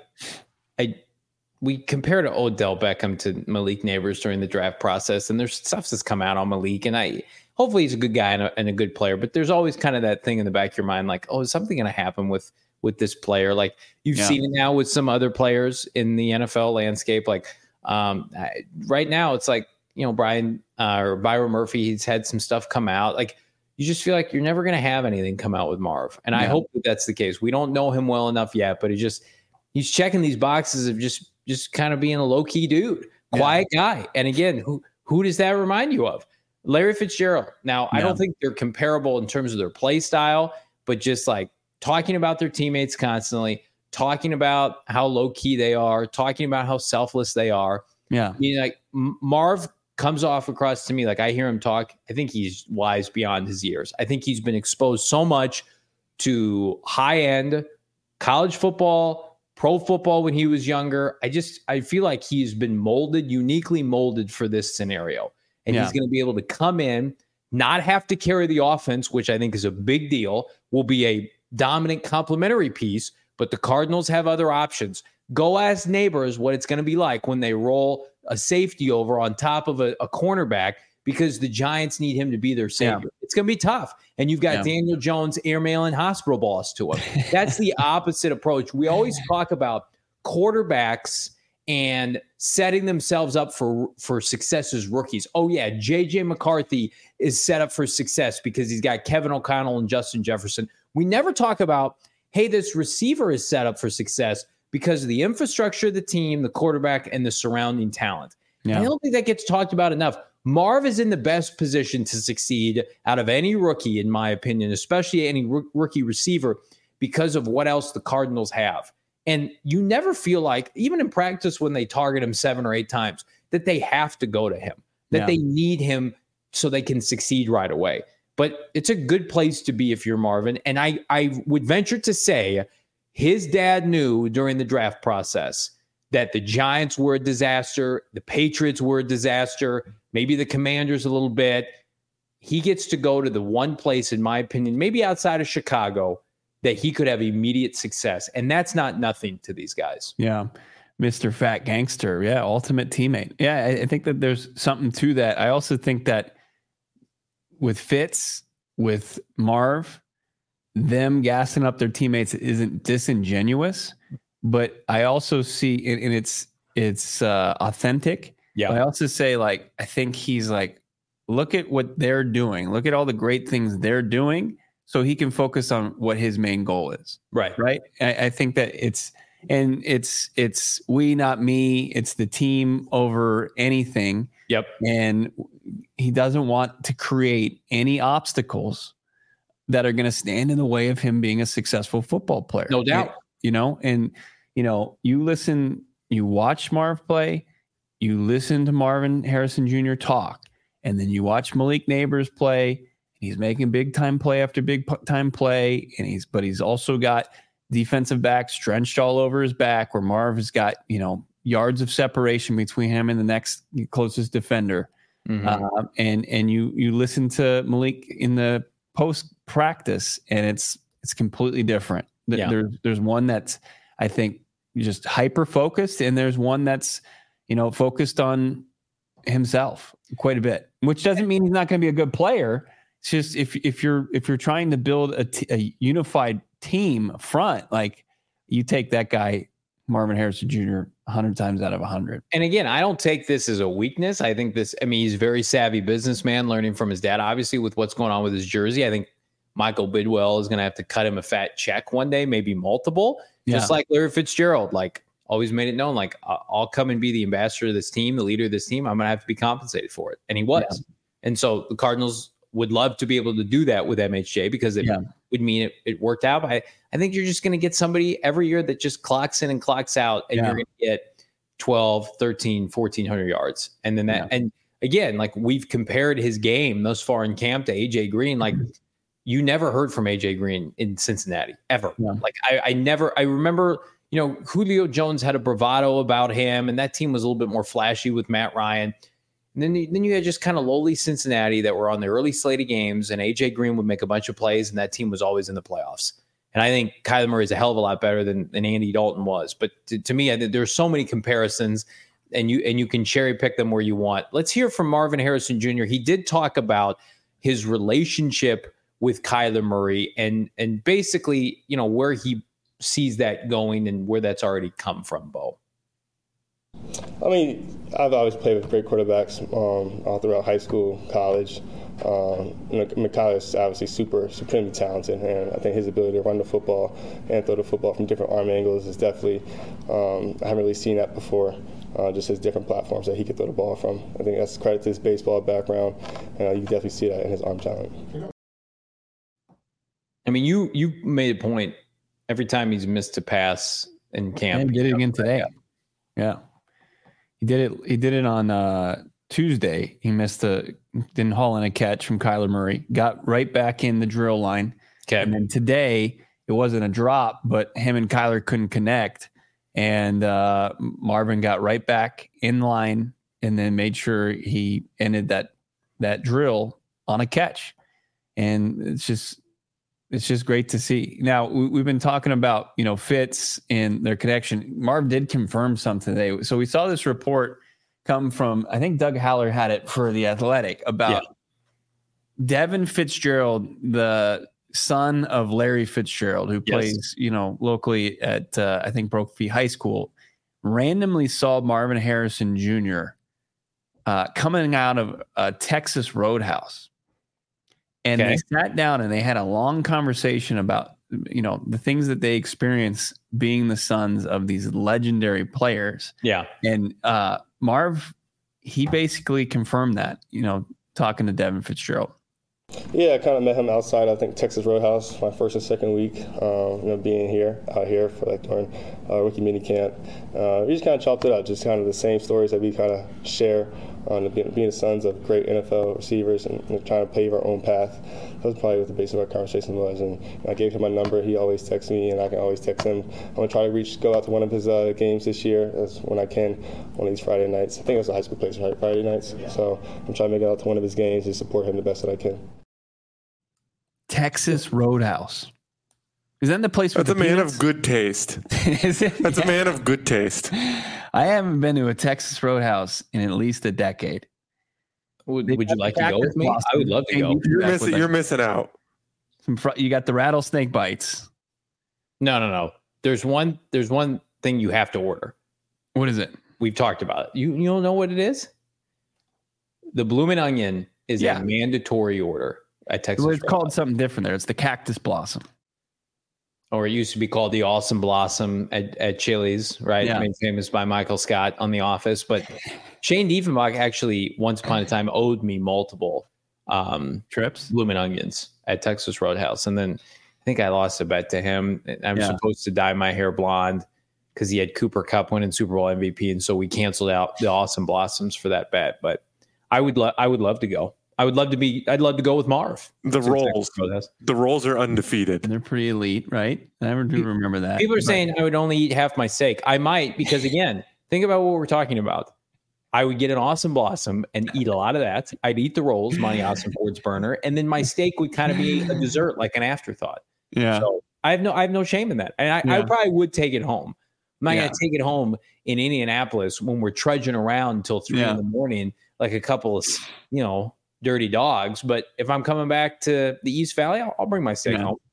we compare to Odell Beckham to Malik Neighbors during the draft process, and there's stuff that's come out on Malik, and hopefully he's a good guy and a good player, but there's always kind of that thing in the back of your mind, like, oh, is something going to happen with this player? Like you've seen it now with some other players in the NFL landscape. Like right now it's like, Byron Murphy, he's had some stuff come out. Like you just feel like you're never going to have anything come out with Marv. And I hope that that's the case. We don't know him well enough yet, but he's checking these boxes of just kind of being a low key dude, quiet guy. And again, who does that remind you of? Larry Fitzgerald. Now, I don't think they're comparable in terms of their play style, but just like, talking about their teammates constantly, talking about how low key they are, talking about how selfless they are. Yeah. I mean, like Marv comes off across to me. Like I hear him talk. I think he's wise beyond his years. I think he's been exposed so much to high end college football, pro football when he was younger. I feel like he's been uniquely molded for this scenario. And he's going to be able to come in, not have to carry the offense, which I think is a big deal, will be a dominant complementary piece, but the Cardinals have other options. Go ask Neighbors what it's going to be like when they roll a safety over on top of a cornerback because the Giants need him to be their savior. Yeah. It's going to be tough. And you've got Daniel Jones airmailing hospital balls to him. That's the opposite approach. We always talk about quarterbacks and setting themselves up for success as rookies. Oh, yeah, J.J. McCarthy is set up for success because he's got Kevin O'Connell and Justin Jefferson. We never talk about, hey, this receiver is set up for success because of the infrastructure of the team, the quarterback, and the surrounding talent. Yeah. I don't think that gets talked about enough. Marv is in the best position to succeed out of any rookie, in my opinion, especially any rookie receiver, because of what else the Cardinals have. And you never feel like, even in practice when they target him 7 or 8 times, that they have to go to him, that they need him so they can succeed right away. But it's a good place to be if you're Marvin. And I would venture to say his dad knew during the draft process that the Giants were a disaster, the Patriots were a disaster, maybe the Commanders a little bit. He gets to go to the one place, in my opinion, maybe outside of Chicago, that he could have immediate success. And that's not nothing to these guys. Yeah. Mr. Fat Gangster. Yeah. Ultimate teammate. Yeah. I think that there's something to that. I also think that Fitz, with Marv, them gassing up their teammates isn't disingenuous, but I also see, and it's authentic. Yeah. But I also say, like, I think he's like, look at what they're doing. Look at all the great things they're doing, so he can focus on what his main goal is. Right. Right. I think that it's we, not me. It's the team over anything. Yep. And he doesn't want to create any obstacles that are going to stand in the way of him being a successful football player. No doubt. You watch Marv play, you listen to Marvin Harrison Jr. talk, and then you watch Malik Neighbors play. He's making big time play after big time play. But he's also got defensive backs drenched all over his back, where Marv has got, yards of separation between him and the next closest defender. Mm-hmm. And you listen to Malik in the post practice, and it's completely different. Yeah. There's one that's, I think, just hyper focused, and there's one that's, focused on himself quite a bit, which doesn't mean he's not going to be a good player. It's just, if you're trying to build a unified team front, like, you take that guy, Marvin Harrison Jr., 100 times out of 100. And again, I don't take this as a weakness. I think he's a very savvy businessman, learning from his dad, obviously, with what's going on with his jersey. I think Michael Bidwell is going to have to cut him a fat check one day, maybe multiple, just like Larry Fitzgerald, like, always made it known, like, I'll come and be the ambassador of this team, the leader of this team. I'm going to have to be compensated for it. And he was. Yeah. And so the Cardinals would love to be able to do that with MHJ, because it would mean it worked out. But I think you're just going to get somebody every year that just clocks in and clocks out, and you're going to get 12, 13, 1,400 yards. And then and again, like, we've compared his game thus far in camp to AJ Green. Like, you never heard from AJ Green in Cincinnati ever. Yeah. Like, I remember, Julio Jones had a bravado about him, and that team was a little bit more flashy with Matt Ryan. And then you had just kind of lowly Cincinnati that were on the early slate of games, and AJ Green would make a bunch of plays, and that team was always in the playoffs. And I think Kyler Murray is a hell of a lot better than Andy Dalton was. But to me, I think there's so many comparisons, and you can cherry pick them where you want. Let's hear from Marvin Harrison Jr. He did talk about his relationship with Kyler Murray and basically, where he sees that going and where that's already come from, Bo. I mean, I've always played with great quarterbacks all throughout high school, college. Kyler is obviously supremely talented, and I think his ability to run the football and throw the football from different arm angles is definitely, I haven't really seen that before, just his different platforms that he could throw the ball from. I think that's credit to his baseball background, and you can definitely see that in his arm talent. I mean, you made a point every time he's missed a pass in camp. He did it again today. Yeah. He did it on Tuesday. He didn't haul in a catch from Kyler Murray, got right back in the drill line. Okay. And then today it wasn't a drop, but him and Kyler couldn't connect. And Marvin got right back in line and then made sure he ended that drill on a catch. And it's just great to see. Now, we've been talking about, Fitz and their connection. Marv did confirm something today. So we saw this report come from, I think Doug Haller had it for The Athletic, about Devin Fitzgerald, the son of Larry Fitzgerald, who plays, locally at, I think, Brophy High School, randomly saw Marvin Harrison Jr. Coming out of a Texas Roadhouse. And they sat down and they had a long conversation about, the things that they experience being the sons of these legendary players. Yeah. And Marv, he basically confirmed that, talking to Devin Fitzgerald. Yeah, I kind of met him outside, I think, Texas Roadhouse, my first and second week, being out here for during rookie mini camp. We just kind of chopped it up, just kind of the same stories that we kind of share on being the sons of great NFL receivers and trying to pave our own path. That was probably what the base of our conversation was. And I gave him my number. He always texts me, and I can always text him. I'm going to try to go out to one of his games this year when I can, one of these Friday nights. I think it was a high school place, right? Friday nights. Yeah. So I'm trying to make it out to one of his games and support him the best that I can. Texas Roadhouse. Is that the place? That's a man of good taste. Is it? That's a man of good taste. I haven't been to a Texas Roadhouse in at least a decade. Would you like to go with me? I would love to go. You're missing out. You got the rattlesnake bites. No. There's one thing you have to order. What is it? We've talked about it. You don't know what it is? The Bloomin' Onion is a mandatory order at Texas. Well, it's called something different there. It's the Cactus Blossom. Or it used to be called the Awesome Blossom at Chili's, right? Yeah. Made famous by Michael Scott on The Office. But Shane Diefenbach actually, once upon a time, owed me multiple trips, Bloomin' Onions at Texas Roadhouse. And then I think I lost a bet to him. I'm supposed to dye my hair blonde because he had Cooper Kupp winning Super Bowl MVP. And so we canceled out the Awesome Blossoms for that bet. But I would love to go. I'd love to go with Marv. The rolls are undefeated. They're pretty elite, right? I never do remember that. People are saying I would only eat half my steak. I might, because again, think about what we're talking about. I would get an Awesome Blossom and eat a lot of that. I'd eat the rolls, Monty Awesome Ford's burner, and then my steak would kind of be a dessert, like an afterthought. Yeah. So I have no shame in that. And I probably would take it home. I'm not going to take it home in Indianapolis when we're trudging around until 3 a.m, like a couple of, dirty dogs. But if I'm coming back to the East Valley, I'll bring my steak home.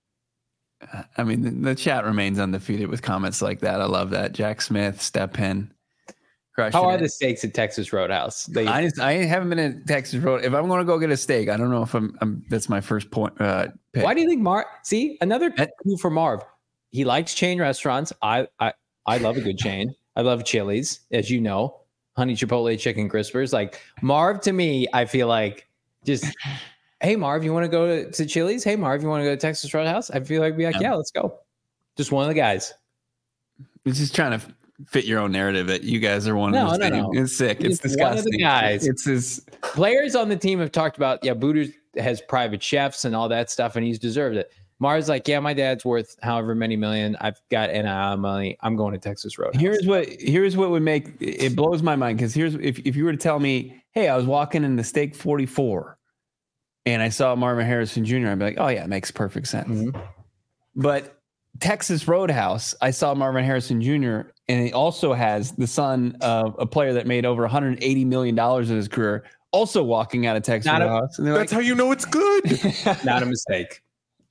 I mean, the chat remains undefeated with comments like that. I love that. Jack Smith, Step Hen. How are the steaks at Texas Roadhouse? I haven't been at Texas Road. If I'm going to go get a steak, I don't know if I'm that's my first point. Pick. Why do you think Marv? See, another clue for Marv. He likes chain restaurants. I love a good chain. I love Chili's, as you know, Honey Chipotle Chicken Crispers. Like Marv, to me, I feel like just, hey, Marv, you want to go to Chili's? Hey, Marv, you want to go to Texas Roadhouse? I feel like be like, yeah, let's go. Just one of the guys. He's just trying to fit your own narrative that you guys are one of those. No. It's sick. It's disgusting. One of the guys. It's his players on the team have talked about, Booters has private chefs and all that stuff, and he's deserved it. Marv's like, my dad's worth however many million. I've got NIL money. I'm going to Texas Roadhouse. Here's what would make it blows my mind, because if you were to tell me, hey, I was walking in the Steak 44 and I saw Marvin Harrison Jr., I'd be like, oh yeah, it makes perfect sense. Mm-hmm. But Texas Roadhouse, I saw Marvin Harrison Jr., and he also has the son of a player that made over $180 million in his career, also walking out of Texas Roadhouse. That's how you know it's good. Not a mistake.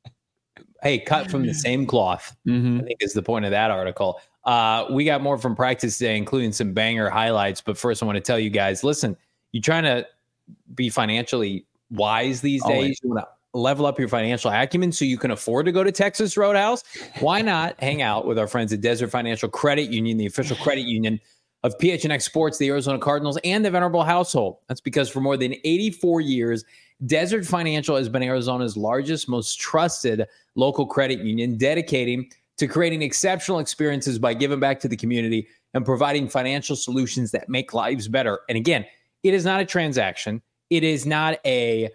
Hey, cut from the same cloth, I think is the point of that article. We got more from practice today, including some banger highlights. But first, I want to tell you guys, listen, you trying to be financially wise these days? You want to level up your financial acumen so you can afford to go to Texas Roadhouse? Why not hang out with our friends at Desert Financial Credit Union, the official credit union of PHNX Sports, the Arizona Cardinals, and the Venerable household? That's because for more than 84 years, Desert Financial has been Arizona's largest, most trusted local credit union, dedicating to creating exceptional experiences by giving back to the community and providing financial solutions that make lives better. And again, it is not a transaction. It is not a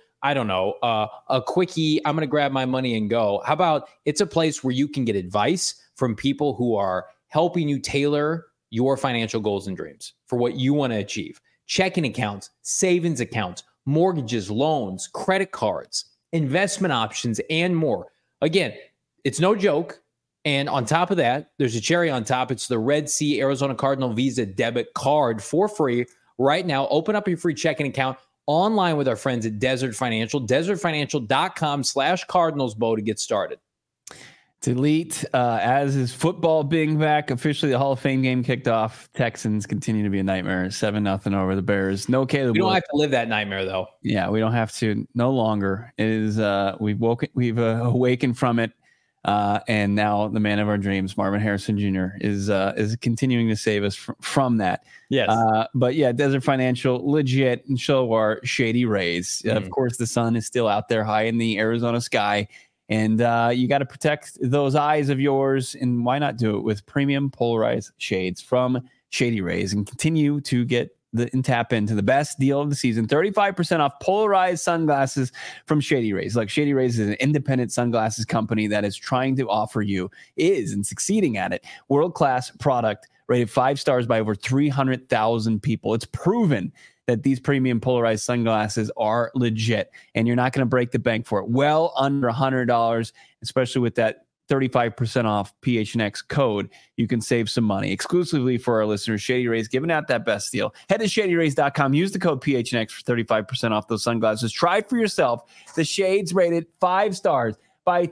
quickie, I'm going to grab my money and go. How about it's a place where you can get advice from people who are helping you tailor your financial goals and dreams for what you want to achieve. Checking accounts, savings accounts, mortgages, loans, credit cards, investment options, and more. Again, it's no joke. And on top of that, there's a cherry on top. It's the Red Sea Arizona Cardinal Visa debit card for free right now. Open up your free checking account online with our friends at Desert Financial, desertfinancial.com/CardinalsBow to get started. It's elite. As is football being back, officially the Hall of Fame game kicked off. Texans continue to be a nightmare. 7-0 over the Bears. No Caleb. We don't have to live that nightmare though. Yeah, we don't have to. No longer. It is. We've awakened from it, and now the man of our dreams, Marvin Harrison Jr., is continuing to save us from that. Yes. But yeah, Desert Financial, legit, and show our shady rays. Of course, the sun is still out there high in the Arizona sky. And you got to protect those eyes of yours. And why not do it with premium polarized shades from Shady Rays and continue to get and tap into the best deal of the season. 35% off polarized sunglasses from Shady Rays. Like, Shady Rays is an independent sunglasses company that is trying to offer you, and succeeding at it, world-class product rated 5 stars by over 300,000 people. It's proven that these premium polarized sunglasses are legit, and you're not going to break the bank for it. Well under $100, especially with that 35% off PHNX code, you can save some money. Exclusively for our listeners, Shady Rays giving out that best deal. Head to ShadyRays.com. Use the code PHNX for 35% off those sunglasses. Try for yourself. The shades rated 5 stars by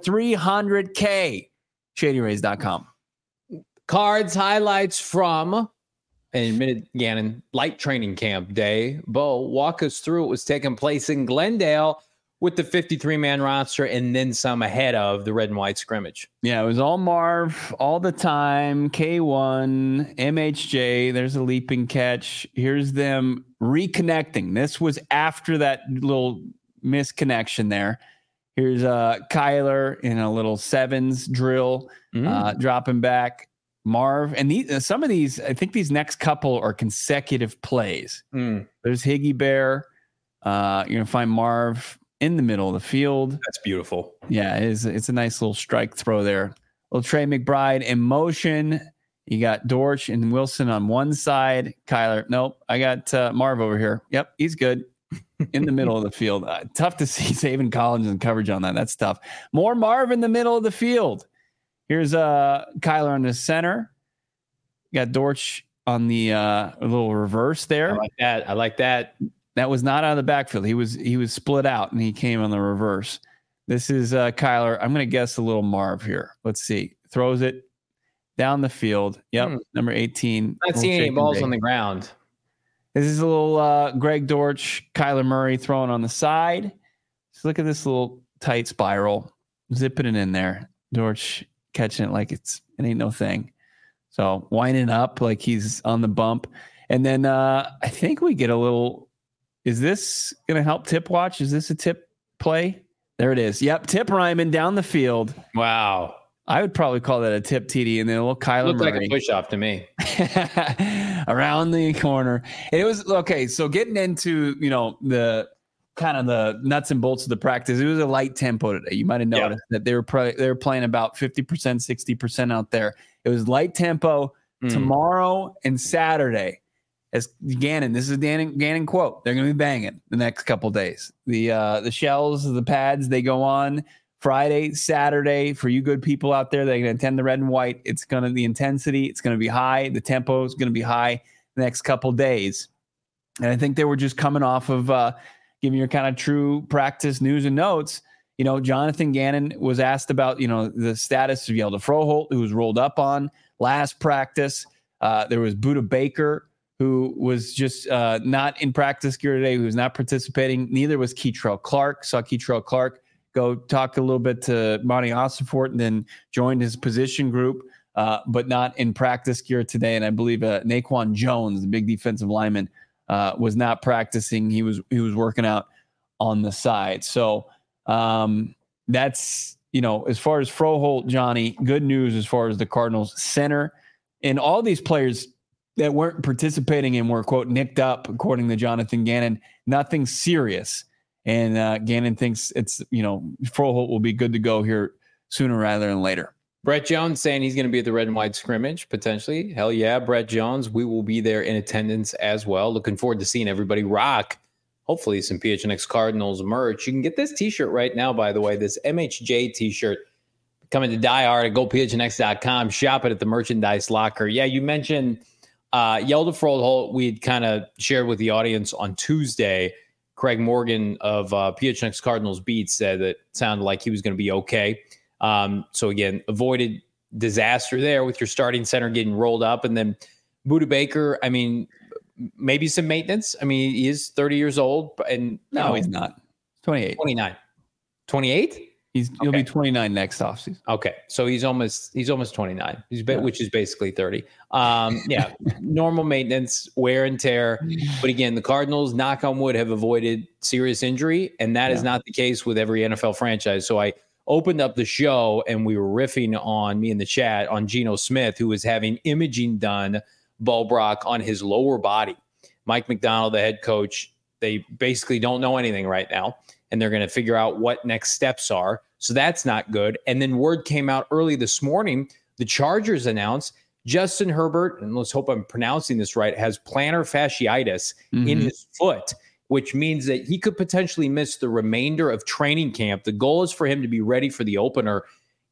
300K. ShadyRays.com. Cards highlights from an admitted Gannon light training camp day. Bo, walk us through what was taking place in Glendale with the 53-man roster and then some ahead of the red and white scrimmage. Yeah, it was all Marv all the time. K1, MHJ, there's a leaping catch. Here's them reconnecting. This was after that little misconnection there. Here's Kyler in a little sevens drill, dropping back. Marv, and some of these, I think these next couple are consecutive plays. There's Higgy Bear. You're going to find Marv in the middle of the field. That's beautiful. Yeah, it's a nice little strike throw there. Little Trey McBride in motion. You got Dortch and Wilson on one side. Kyler, nope. I got Marv over here. Yep, he's good. In the middle of the field. Tough to see Zaven Collins in coverage on that. That's tough. More Marv in the middle of the field. Here's Kyler on the center. You got Dortch on the little reverse there. I like that. That was not out of the backfield. He was split out and he came on the reverse. This is Kyler. I'm going to guess a little Marv here. Let's see. Throws it down the field. Yep. Number 18. Not seeing any balls on the ground. This is a little Greg Dortch, Kyler Murray throwing on the side. Just look at this little tight spiral. Zipping it in there. Dortch catching it like it ain't no thing. So winding up like he's on the bump. And then I think we get a little... Is this going to help Tip watch? Is this a tip play? There it is. Yep. Tip Ryman down the field. Wow. I would probably call that a tip TD. And then a little Kyler Murray. Looked like a push off to me. Around the corner. And it was okay. So getting into, the kind of the nuts and bolts of the practice, it was a light tempo today. You might have noticed that they were playing about 50%, 60% out there. It was light tempo tomorrow and Saturday. As Gannon, this is Gannon quote. They're going to be banging the next couple days. The shells, the pads, they go on Friday, Saturday. For you good people out there, they're going to attend the red and white. It's going to the intensity. It's going to be high. The tempo is going to be high the next couple days. And I think they were just coming off of giving your kind of true practice news and notes. Jonathan Gannon was asked about the status of Yelda Froholt, who was rolled up on last practice. There was Budda Baker, who was just not in practice gear today, who was not participating. Neither was Keitrell Clark. Saw Keitrell Clark go talk a little bit to Monty Ossenfort and then joined his position group, but not in practice gear today. And I believe Naquan Jones, the big defensive lineman, was not practicing. He was working out on the side. So that's, as far as Froholt, Johnny, good news as far as the Cardinals center. And all these players that weren't participating and were, quote, nicked up, according to Jonathan Gannon, nothing serious. And Gannon thinks it's, Froholt will be good to go here sooner rather than later. Brett Jones saying he's going to be at the red and white scrimmage, potentially. Hell yeah, Brett Jones. We will be there in attendance as well. Looking forward to seeing everybody rock, hopefully, some PHNX Cardinals merch. You can get this t-shirt right now, by the way, this MHJ t-shirt coming to Die Hard at GoPHNX.com. Shop it at the merchandise locker. Yeah, you mentioned Yelda Froholt. We had kind of shared with the audience on Tuesday. Craig Morgan of PHNX Cardinals Beat said that it sounded like he was going to be okay. So again, avoided disaster there with your starting center getting rolled up. And then Budda Baker, I mean, maybe some maintenance. I mean, he is 30 years old. And no, he's not. 28. 29. 28? He'll be 29 next offseason. Okay. So he's almost 29. Which is basically 30. Yeah. Normal maintenance, wear and tear. But again, the Cardinals, knock on wood, have avoided serious injury. And that is not the case with every NFL franchise. So I opened up the show and we were riffing on, me in the chat, on Geno Smith, who was having imaging done, Bo Brock, on his lower body. Mike McDonald, the head coach, they basically don't know anything right now. And they're going to figure out what next steps are. So that's not good. And then word came out early this morning. The Chargers announced Justin Herbert, and let's hope I'm pronouncing this right, has plantar fasciitis in his foot, which means that he could potentially miss the remainder of training camp. The goal is for him to be ready for the opener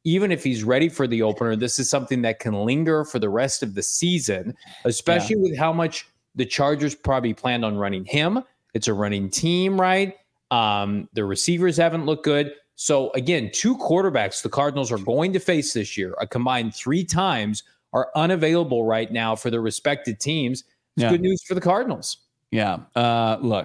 even if he's ready for the opener, this is something that can linger for the rest of the season, especially with how much the Chargers probably planned on running him. It's a running team, right? The receivers haven't looked good. So again, 2 quarterbacks the Cardinals are going to face this year, a combined 3 times, are unavailable right now for their respective teams. It's good news for the Cardinals. Yeah. Look,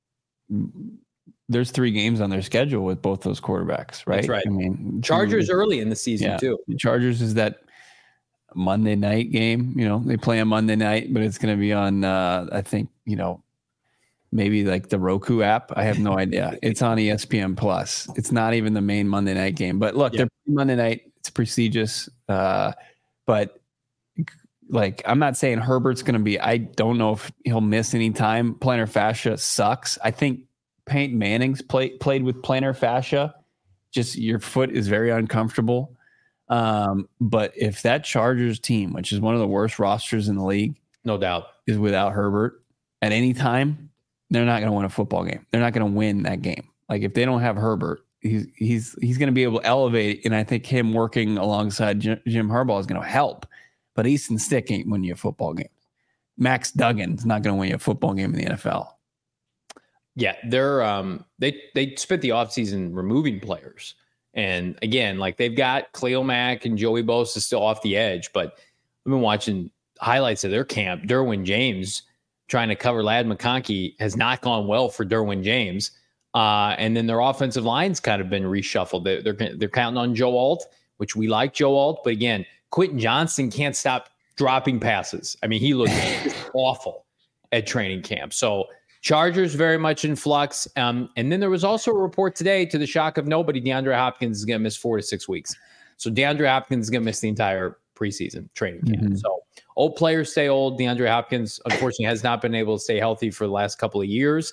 there's 3 games on their schedule with both those quarterbacks, right? That's right. I mean, Chargers early in the season too. The Chargers is that Monday night game. They play on Monday night, but it's going to be on, I think, maybe like the Roku app. I have no idea. It's on ESPN Plus. It's not even the main Monday night game. But look, they're Monday night. It's prestigious. But like, I'm not saying Herbert's going to be. I don't know if he'll miss any time. Plantar fascia sucks. I think Peyton Manning's played with plantar fascia. Just your foot is very uncomfortable. But if that Chargers team, which is one of the worst rosters in the league, no doubt, is without Herbert at any time, they're not going to win a football game. They're not going to win that game. Like if they don't have Herbert, he's going to be able to elevate. And I think him working alongside Jim Harbaugh is going to help. But Easton Stick ain't winning you a football game. Max Duggan's not going to win you a football game in the NFL. Yeah, they're they spent the offseason removing players. And again, like they've got Khalil Mack and Joey Bosa still off the edge, but I've been watching highlights of their camp. Derwin James trying to cover Ladd McConkey has not gone well for Derwin James. And then their offensive line's kind of been reshuffled. They're counting on Joe Alt, which we like Joe Alt, but again, Quentin Johnson can't stop dropping passes. I mean, he looked awful at training camp. So Chargers very much in flux. And then there was also a report today, to the shock of nobody, DeAndre Hopkins is going to miss 4 to 6 weeks. So DeAndre Hopkins is going to miss the entire preseason training camp. Mm-hmm. So old players stay old. DeAndre Hopkins, unfortunately, has not been able to stay healthy for the last couple of years.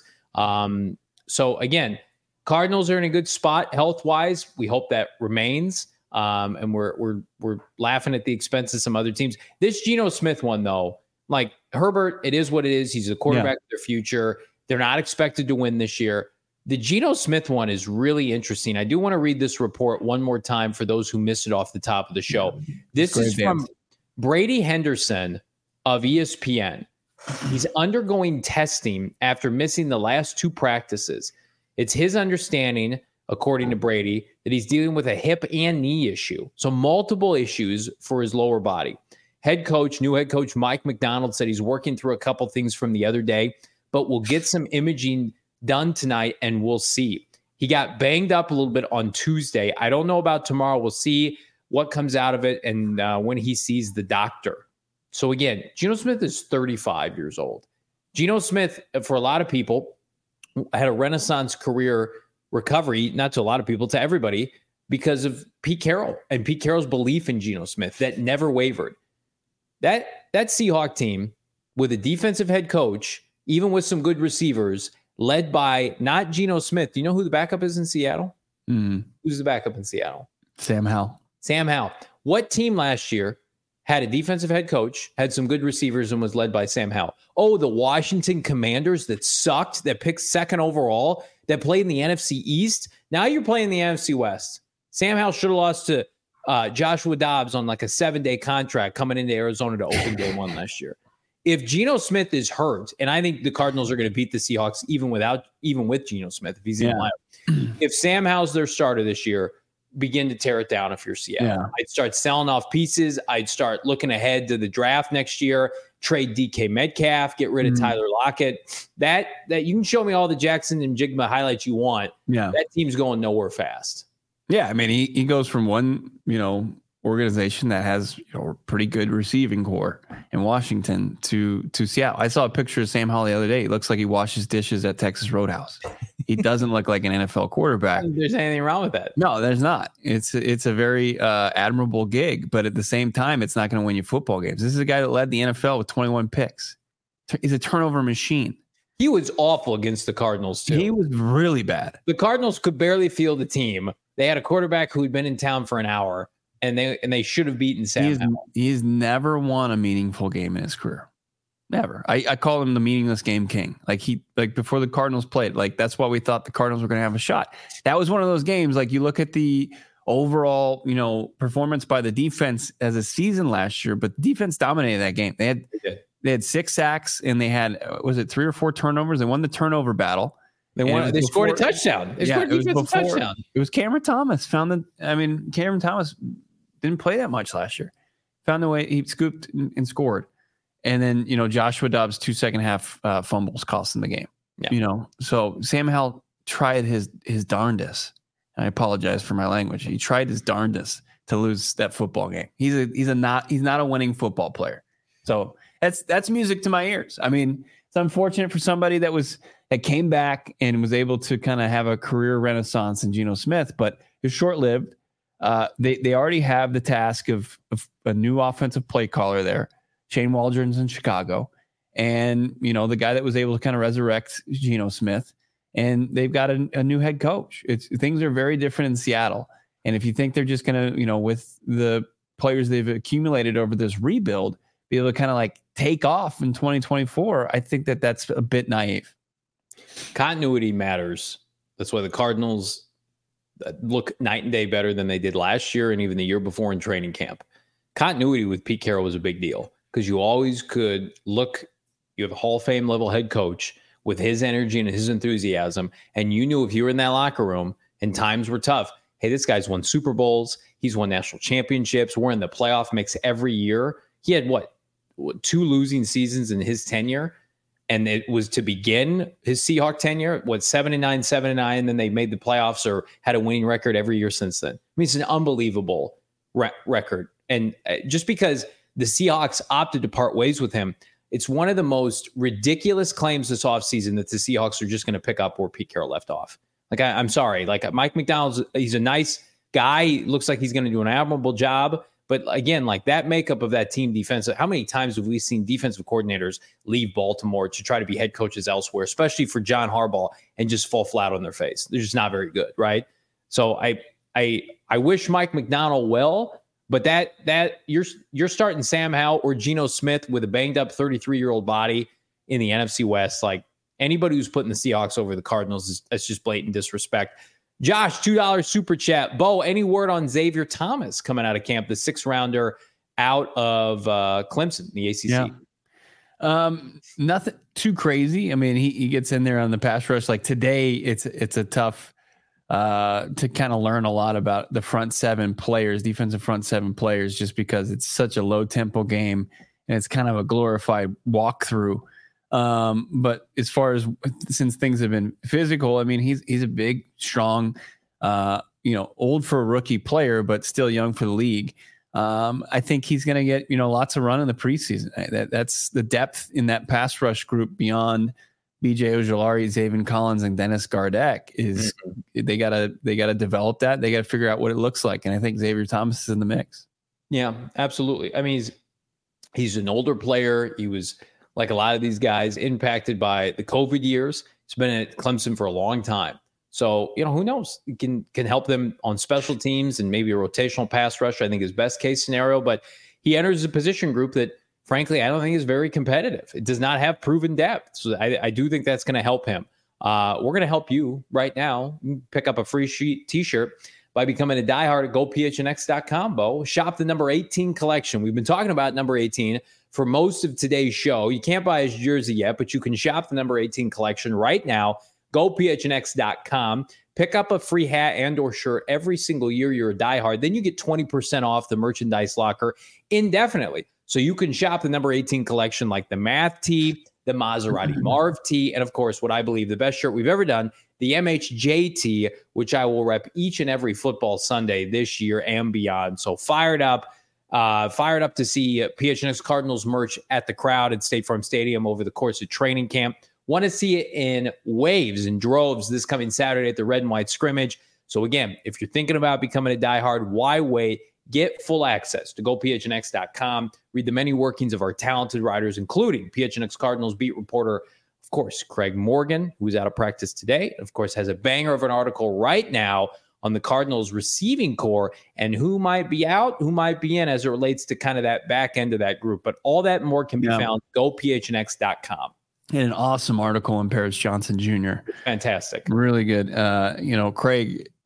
So again, Cardinals are in a good spot health-wise. We hope that remains. And we're laughing at the expense of some other teams. This Geno Smith one, though, like Herbert, it is what it is. He's a quarterback of their future. They're not expected to win this year. The Geno Smith one is really interesting. I do want to read this report one more time for those who missed it off the top of the show. This is from Brady Henderson of ESPN. He's undergoing testing after missing the last 2 practices. It's his understanding, according to Brady, that he's dealing with a hip and knee issue. So multiple issues for his lower body. New head coach Mike McDonald said he's working through a couple things from the other day, but we'll get some imaging done tonight and we'll see. He got banged up a little bit on Tuesday. I don't know about tomorrow. We'll see what comes out of it and when he sees the doctor. So again, Geno Smith is 35 years old. Geno Smith, for a lot of people, had a renaissance career recovery, not to a lot of people, to everybody, because of Pete Carroll and Pete Carroll's belief in Geno Smith that never wavered. That Seahawk team with a defensive head coach, even with some good receivers, led by not Geno Smith. Do you know who the backup is in Seattle? Mm. Who's the backup in Seattle? Sam Howell. Sam Howell. What team last year had a defensive head coach, had some good receivers, and was led by Sam Howell? Oh, the Washington Commanders that sucked, that picked 2nd overall, that played in the NFC East. Now you're playing the NFC West. Sam Howell should have lost to Joshua Dobbs on like a 7-day contract coming into Arizona to open day 1 last year. If Geno Smith is hurt, and I think the Cardinals are going to beat the Seahawks even with Geno Smith, if he's in line. If Sam Howell's their starter this year, begin to tear it down if you're Seattle. Yeah. I'd start selling off pieces. I'd start looking ahead to the draft next year, trade DK Metcalf, get rid of Tyler Lockett. That you can show me all the Jackson and Jigma highlights you want. Yeah. That team's going nowhere fast. Yeah, I mean, he goes from one, organization that has a pretty good receiving core in Washington to Seattle. I saw a picture of Sam Howell the other day. He looks like he washes dishes at Texas Roadhouse. He doesn't look like an NFL quarterback. I don't think there's anything wrong with that. No, there's not. It's a very admirable gig, but at the same time, it's not going to win you football games. This is a guy that led the NFL with 21 picks. He's a turnover machine. He was awful against the Cardinals, too. He was really bad. The Cardinals could barely field the team. They had a quarterback who had been in town for an hour, and they should have beaten Sam Howell. He's never won a meaningful game in his career. Never. I call him the meaningless game king. Like before the Cardinals played, like that's why we thought the Cardinals were going to have a shot. That was one of those games. Like you look at the overall, performance by the defense as a season last year, but the defense dominated that game. They had 6 sacks and they had, was it 3 or 4 turnovers? They won the turnover battle. They scored a touchdown. They scored a defensive touchdown. It was Cameron Thomas. Cameron Thomas didn't play that much last year. Found the way, he scooped and scored. And then, Joshua Dobbs' 2 second half fumbles cost him the game. Yeah. So Sam Howell tried his darndest. I apologize for my language. He tried his darndest to lose that football game. He's not a winning football player. So that's music to my ears. I mean, it's unfortunate for somebody that came back and was able to kind of have a career renaissance in Geno Smith, but it's short-lived. They already have the task of a new offensive play caller there. Shane Waldron's in Chicago, and the guy that was able to kind of resurrect Geno Smith, and they've got a new head coach. Things are very different in Seattle, and if you think they're just going to, with the players they've accumulated over this rebuild, be able to kind of like take off in 2024, I think that's a bit naive. Continuity matters. That's why the Cardinals look night and day better than they did last year and even the year before in training camp. Continuity with Pete Carroll was a big deal because you always could look, you have a Hall of Fame level head coach with his energy and his enthusiasm, and you knew if you were in that locker room and times were tough, hey, this guy's won Super Bowls, he's won national championships, we're in the playoff mix every year. He had 2 losing seasons in his tenure, and it was to begin his Seahawk tenure, 7-9, 7-9, and then they made the playoffs or had a winning record every year since then. I mean, it's an unbelievable record. And just because the Seahawks opted to part ways with him, it's one of the most ridiculous claims this offseason that the Seahawks are just going to pick up where Pete Carroll left off. I'm sorry. Mike Macdonald's, he's a nice guy. He looks like he's going to do an admirable job. But again, that makeup of that team defense, how many times have we seen defensive coordinators leave Baltimore to try to be head coaches elsewhere, especially for John Harbaugh, and just fall flat on their face? They're just not very good, right? So I wish Mike Macdonald well, but that you're starting Sam Howell or Geno Smith with a banged up 33-year-old body in the NFC West. Anybody who's putting the Seahawks over the Cardinals, that's just blatant disrespect. Josh, $2 super chat. Bo, any word on Xavier Thomas coming out of camp, the 6th rounder out of Clemson, the ACC? Yeah. Nothing too crazy. I mean, he gets in there on the pass rush. Today, it's a tough to kind of learn a lot about the defensive front 7 players, just because it's such a low tempo game and it's kind of a glorified walkthrough. But as far as since things have been physical, I mean, he's a big, strong, old for a rookie player, but still young for the league. I think he's going to get, lots of run in the preseason. That's the depth in that pass rush group beyond BJ Ojulari, Zaven Collins, and Dennis Gardeck is they gotta develop that. They got to figure out what it looks like. And I think Xavier Thomas is in the mix. Yeah, absolutely. I mean, he's an older player. He was, like a lot of these guys, impacted by the COVID years. He's been at Clemson for a long time. So, who knows? He can help them on special teams and maybe a rotational pass rusher, I think is best case scenario. But he enters a position group that, frankly, I don't think is very competitive. It does not have proven depth. So I do think that's going to help him. We're going to help you right now. Pick up a free t-shirt by becoming a diehard at GoPHNX.com, Bo. Shop the number 18 collection. We've been talking about number 18 for most of today's show. You can't buy his jersey yet, but you can shop the number 18 collection right now. GoPHNX.com. Pick up a free hat and or shirt every single year you're a diehard. Then you get 20% off the merchandise locker indefinitely. So you can shop the number 18 collection like the Math tee, the Maserati Marv tee, and of course, what I believe the best shirt we've ever done, the MHJ tee, which I will rep each and every football Sunday this year and beyond. So fired up to see PHNX Cardinals merch at the Crowd at State Farm Stadium over the course of training camp. Want to see it in waves and droves this coming Saturday at the Red and White scrimmage. So again, if you're thinking about becoming a diehard, why wait? Get full access to GoPHNX.com. Read the many workings of our talented writers, including PHNX Cardinals beat reporter, of course, Craig Morgan, who's out of practice today. Of course, has a banger of an article right now on the Cardinals receiving core and who might be out, who might be in as it relates to kind of that back end of that group. But all that and more can be found at GoPHNX.com. And an awesome article on Paris Johnson Jr. Fantastic. Really good. Craig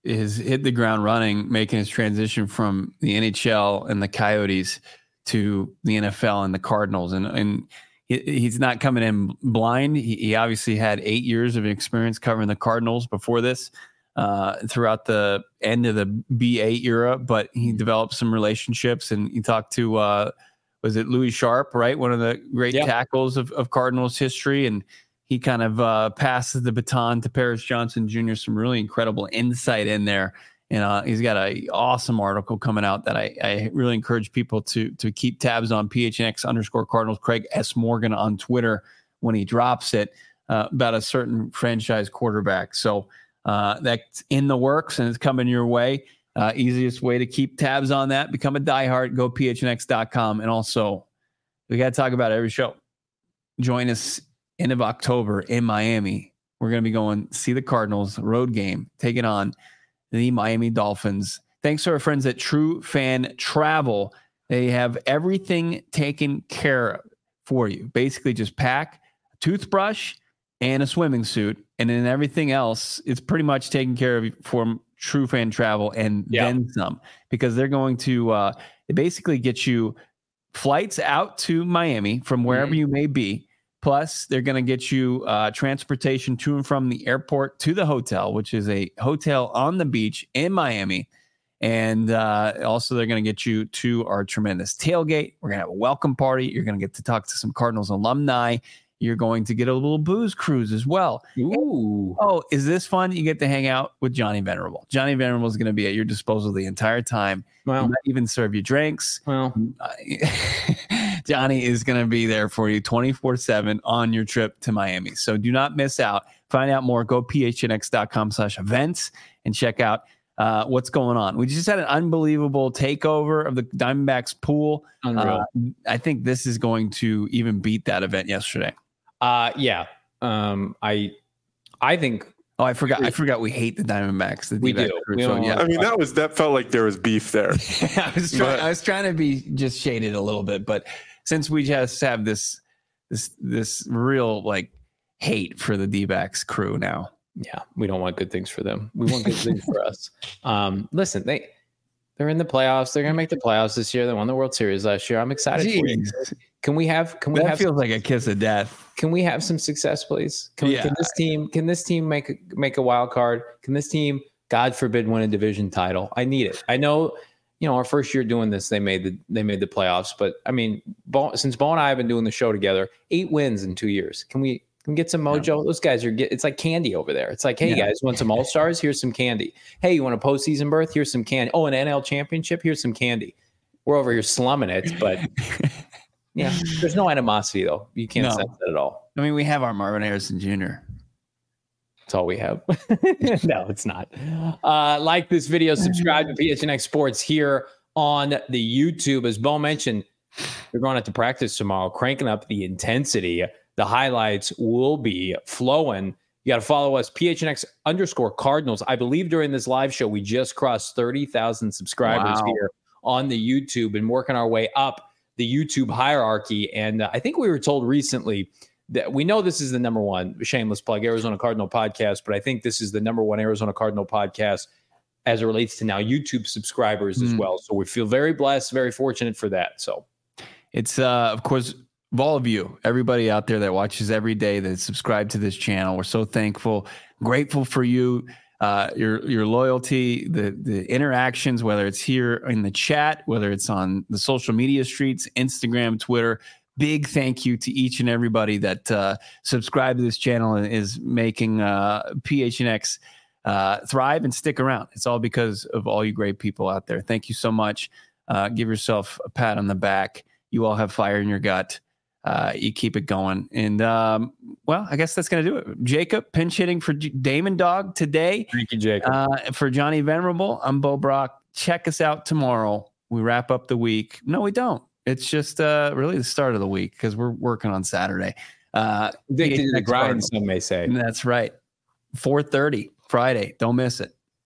has hit the ground running, making his transition from the NHL and the Coyotes to the NFL and the Cardinals. And he's not coming in blind. He obviously had 8 years of experience covering the Cardinals before this, throughout the end of the B8 era, but he developed some relationships, and he talked to, was it Louis Sharp, right? One of the great tackles of Cardinals history. And he kind of passes the baton to Paris Johnson Jr., some really incredible insight in there. And he's got an awesome article coming out that I really encourage people to keep tabs on, PHNX_Cardinals, Craig S. Morgan on Twitter when he drops it, about a certain franchise quarterback. So that's in the works and it's coming your way. Easiest way to keep tabs on that, become a diehard, go phnx.com. And also, we got to talk about it every show. Join us end of October in Miami. We're going to be going see the Cardinals road game, taking on the Miami Dolphins. Thanks to our friends at True Fan Travel. They have everything taken care of for you. Basically, just pack a toothbrush and a swimming suit, and then everything else is pretty much taken care of from True Fan Travel and then some, because they're going to basically get you flights out to Miami from wherever you may be. Plus, they're going to get you transportation to and from the airport to the hotel, which is a hotel on the beach in Miami. And also, they're going to get you to our tremendous tailgate. We're going to have a welcome party. You're going to get to talk to some Cardinals alumni. You're going to get a little booze cruise as well. Ooh. Oh, is this fun? You get to hang out with Johnny Venerable. Johnny Venerable is going to be at your disposal the entire time. Well, he might even serve you drinks. Well, Johnny is going to be there for you 24/7 on your trip to Miami. So do not miss out. Find out more. Go phnx.com/events and check out what's going on. We just had an unbelievable takeover of the Diamondbacks pool. Unreal. I think this is going to even beat that event yesterday. Yeah. I think. Oh, I forgot. We hate the Diamondbacks. We do. I mean, that felt like there was beef there. I was trying to be just shaded a little bit, but since we just have this real like hate for the D-backs crew now. Yeah, we don't want good things for them. We want good things for us. Listen, they're in the playoffs. They're gonna make the playoffs this year. They won the World Series last year. I'm excited for you. Can we have feels like a kiss of death. Can we have some success, please? Can this team make a wild card? Can this team, God forbid, win a division title? I need it. I know, our first year doing this, they made the playoffs, but I mean, since Bo and I have been doing the show together, 8 wins in 2 years. Can we get some mojo? Those guys it's like candy over there. It's like, hey guys, want some All-Stars? Here's some candy. Hey, you want a postseason berth? Here's some candy. Oh, an NL championship? Here's some candy. We're over here slumming it, but yeah, there's no animosity though. You can't sense that at all. I mean, we have our Marvin Harrison Jr. That's all we have. No, it's not. Like this video, subscribe to PHNX Sports here on the YouTube. As Bo mentioned, we're going out to practice tomorrow, cranking up the intensity. The highlights will be flowing. You got to follow us, PHNX_Cardinals. I believe during this live show, we just crossed 30,000 subscribers here on the YouTube and working our way up the YouTube hierarchy. And I think we were told recently that we know this is the number one, shameless plug, Arizona Cardinal podcast, but I think this is the number one Arizona Cardinal podcast as it relates to now YouTube subscribers as well. So we feel very blessed, very fortunate for that. So it's, of course, of all of you, everybody out there that watches every day, that subscribe to this channel. We're so thankful, grateful for you, your loyalty, the interactions, whether it's here in the chat, whether it's on the social media streets, Instagram, Twitter. Big thank you to each and everybody that subscribe to this channel and is making PHNX thrive and stick around. It's all because of all you great people out there. Thank you so much. Give yourself a pat on the back. You all have fire in your gut. You keep it going. And, well, I guess that's going to do it. Jacob, pinch hitting for Damon Dog today. Thank you, Jacob. For Johnny Venerable, I'm Bo Brock. Check us out tomorrow. We wrap up the week. No, we don't. It's just really the start of the week because we're working on Saturday. Addicted to the grind, some may say. That's right. 4:30 Friday. Don't miss it.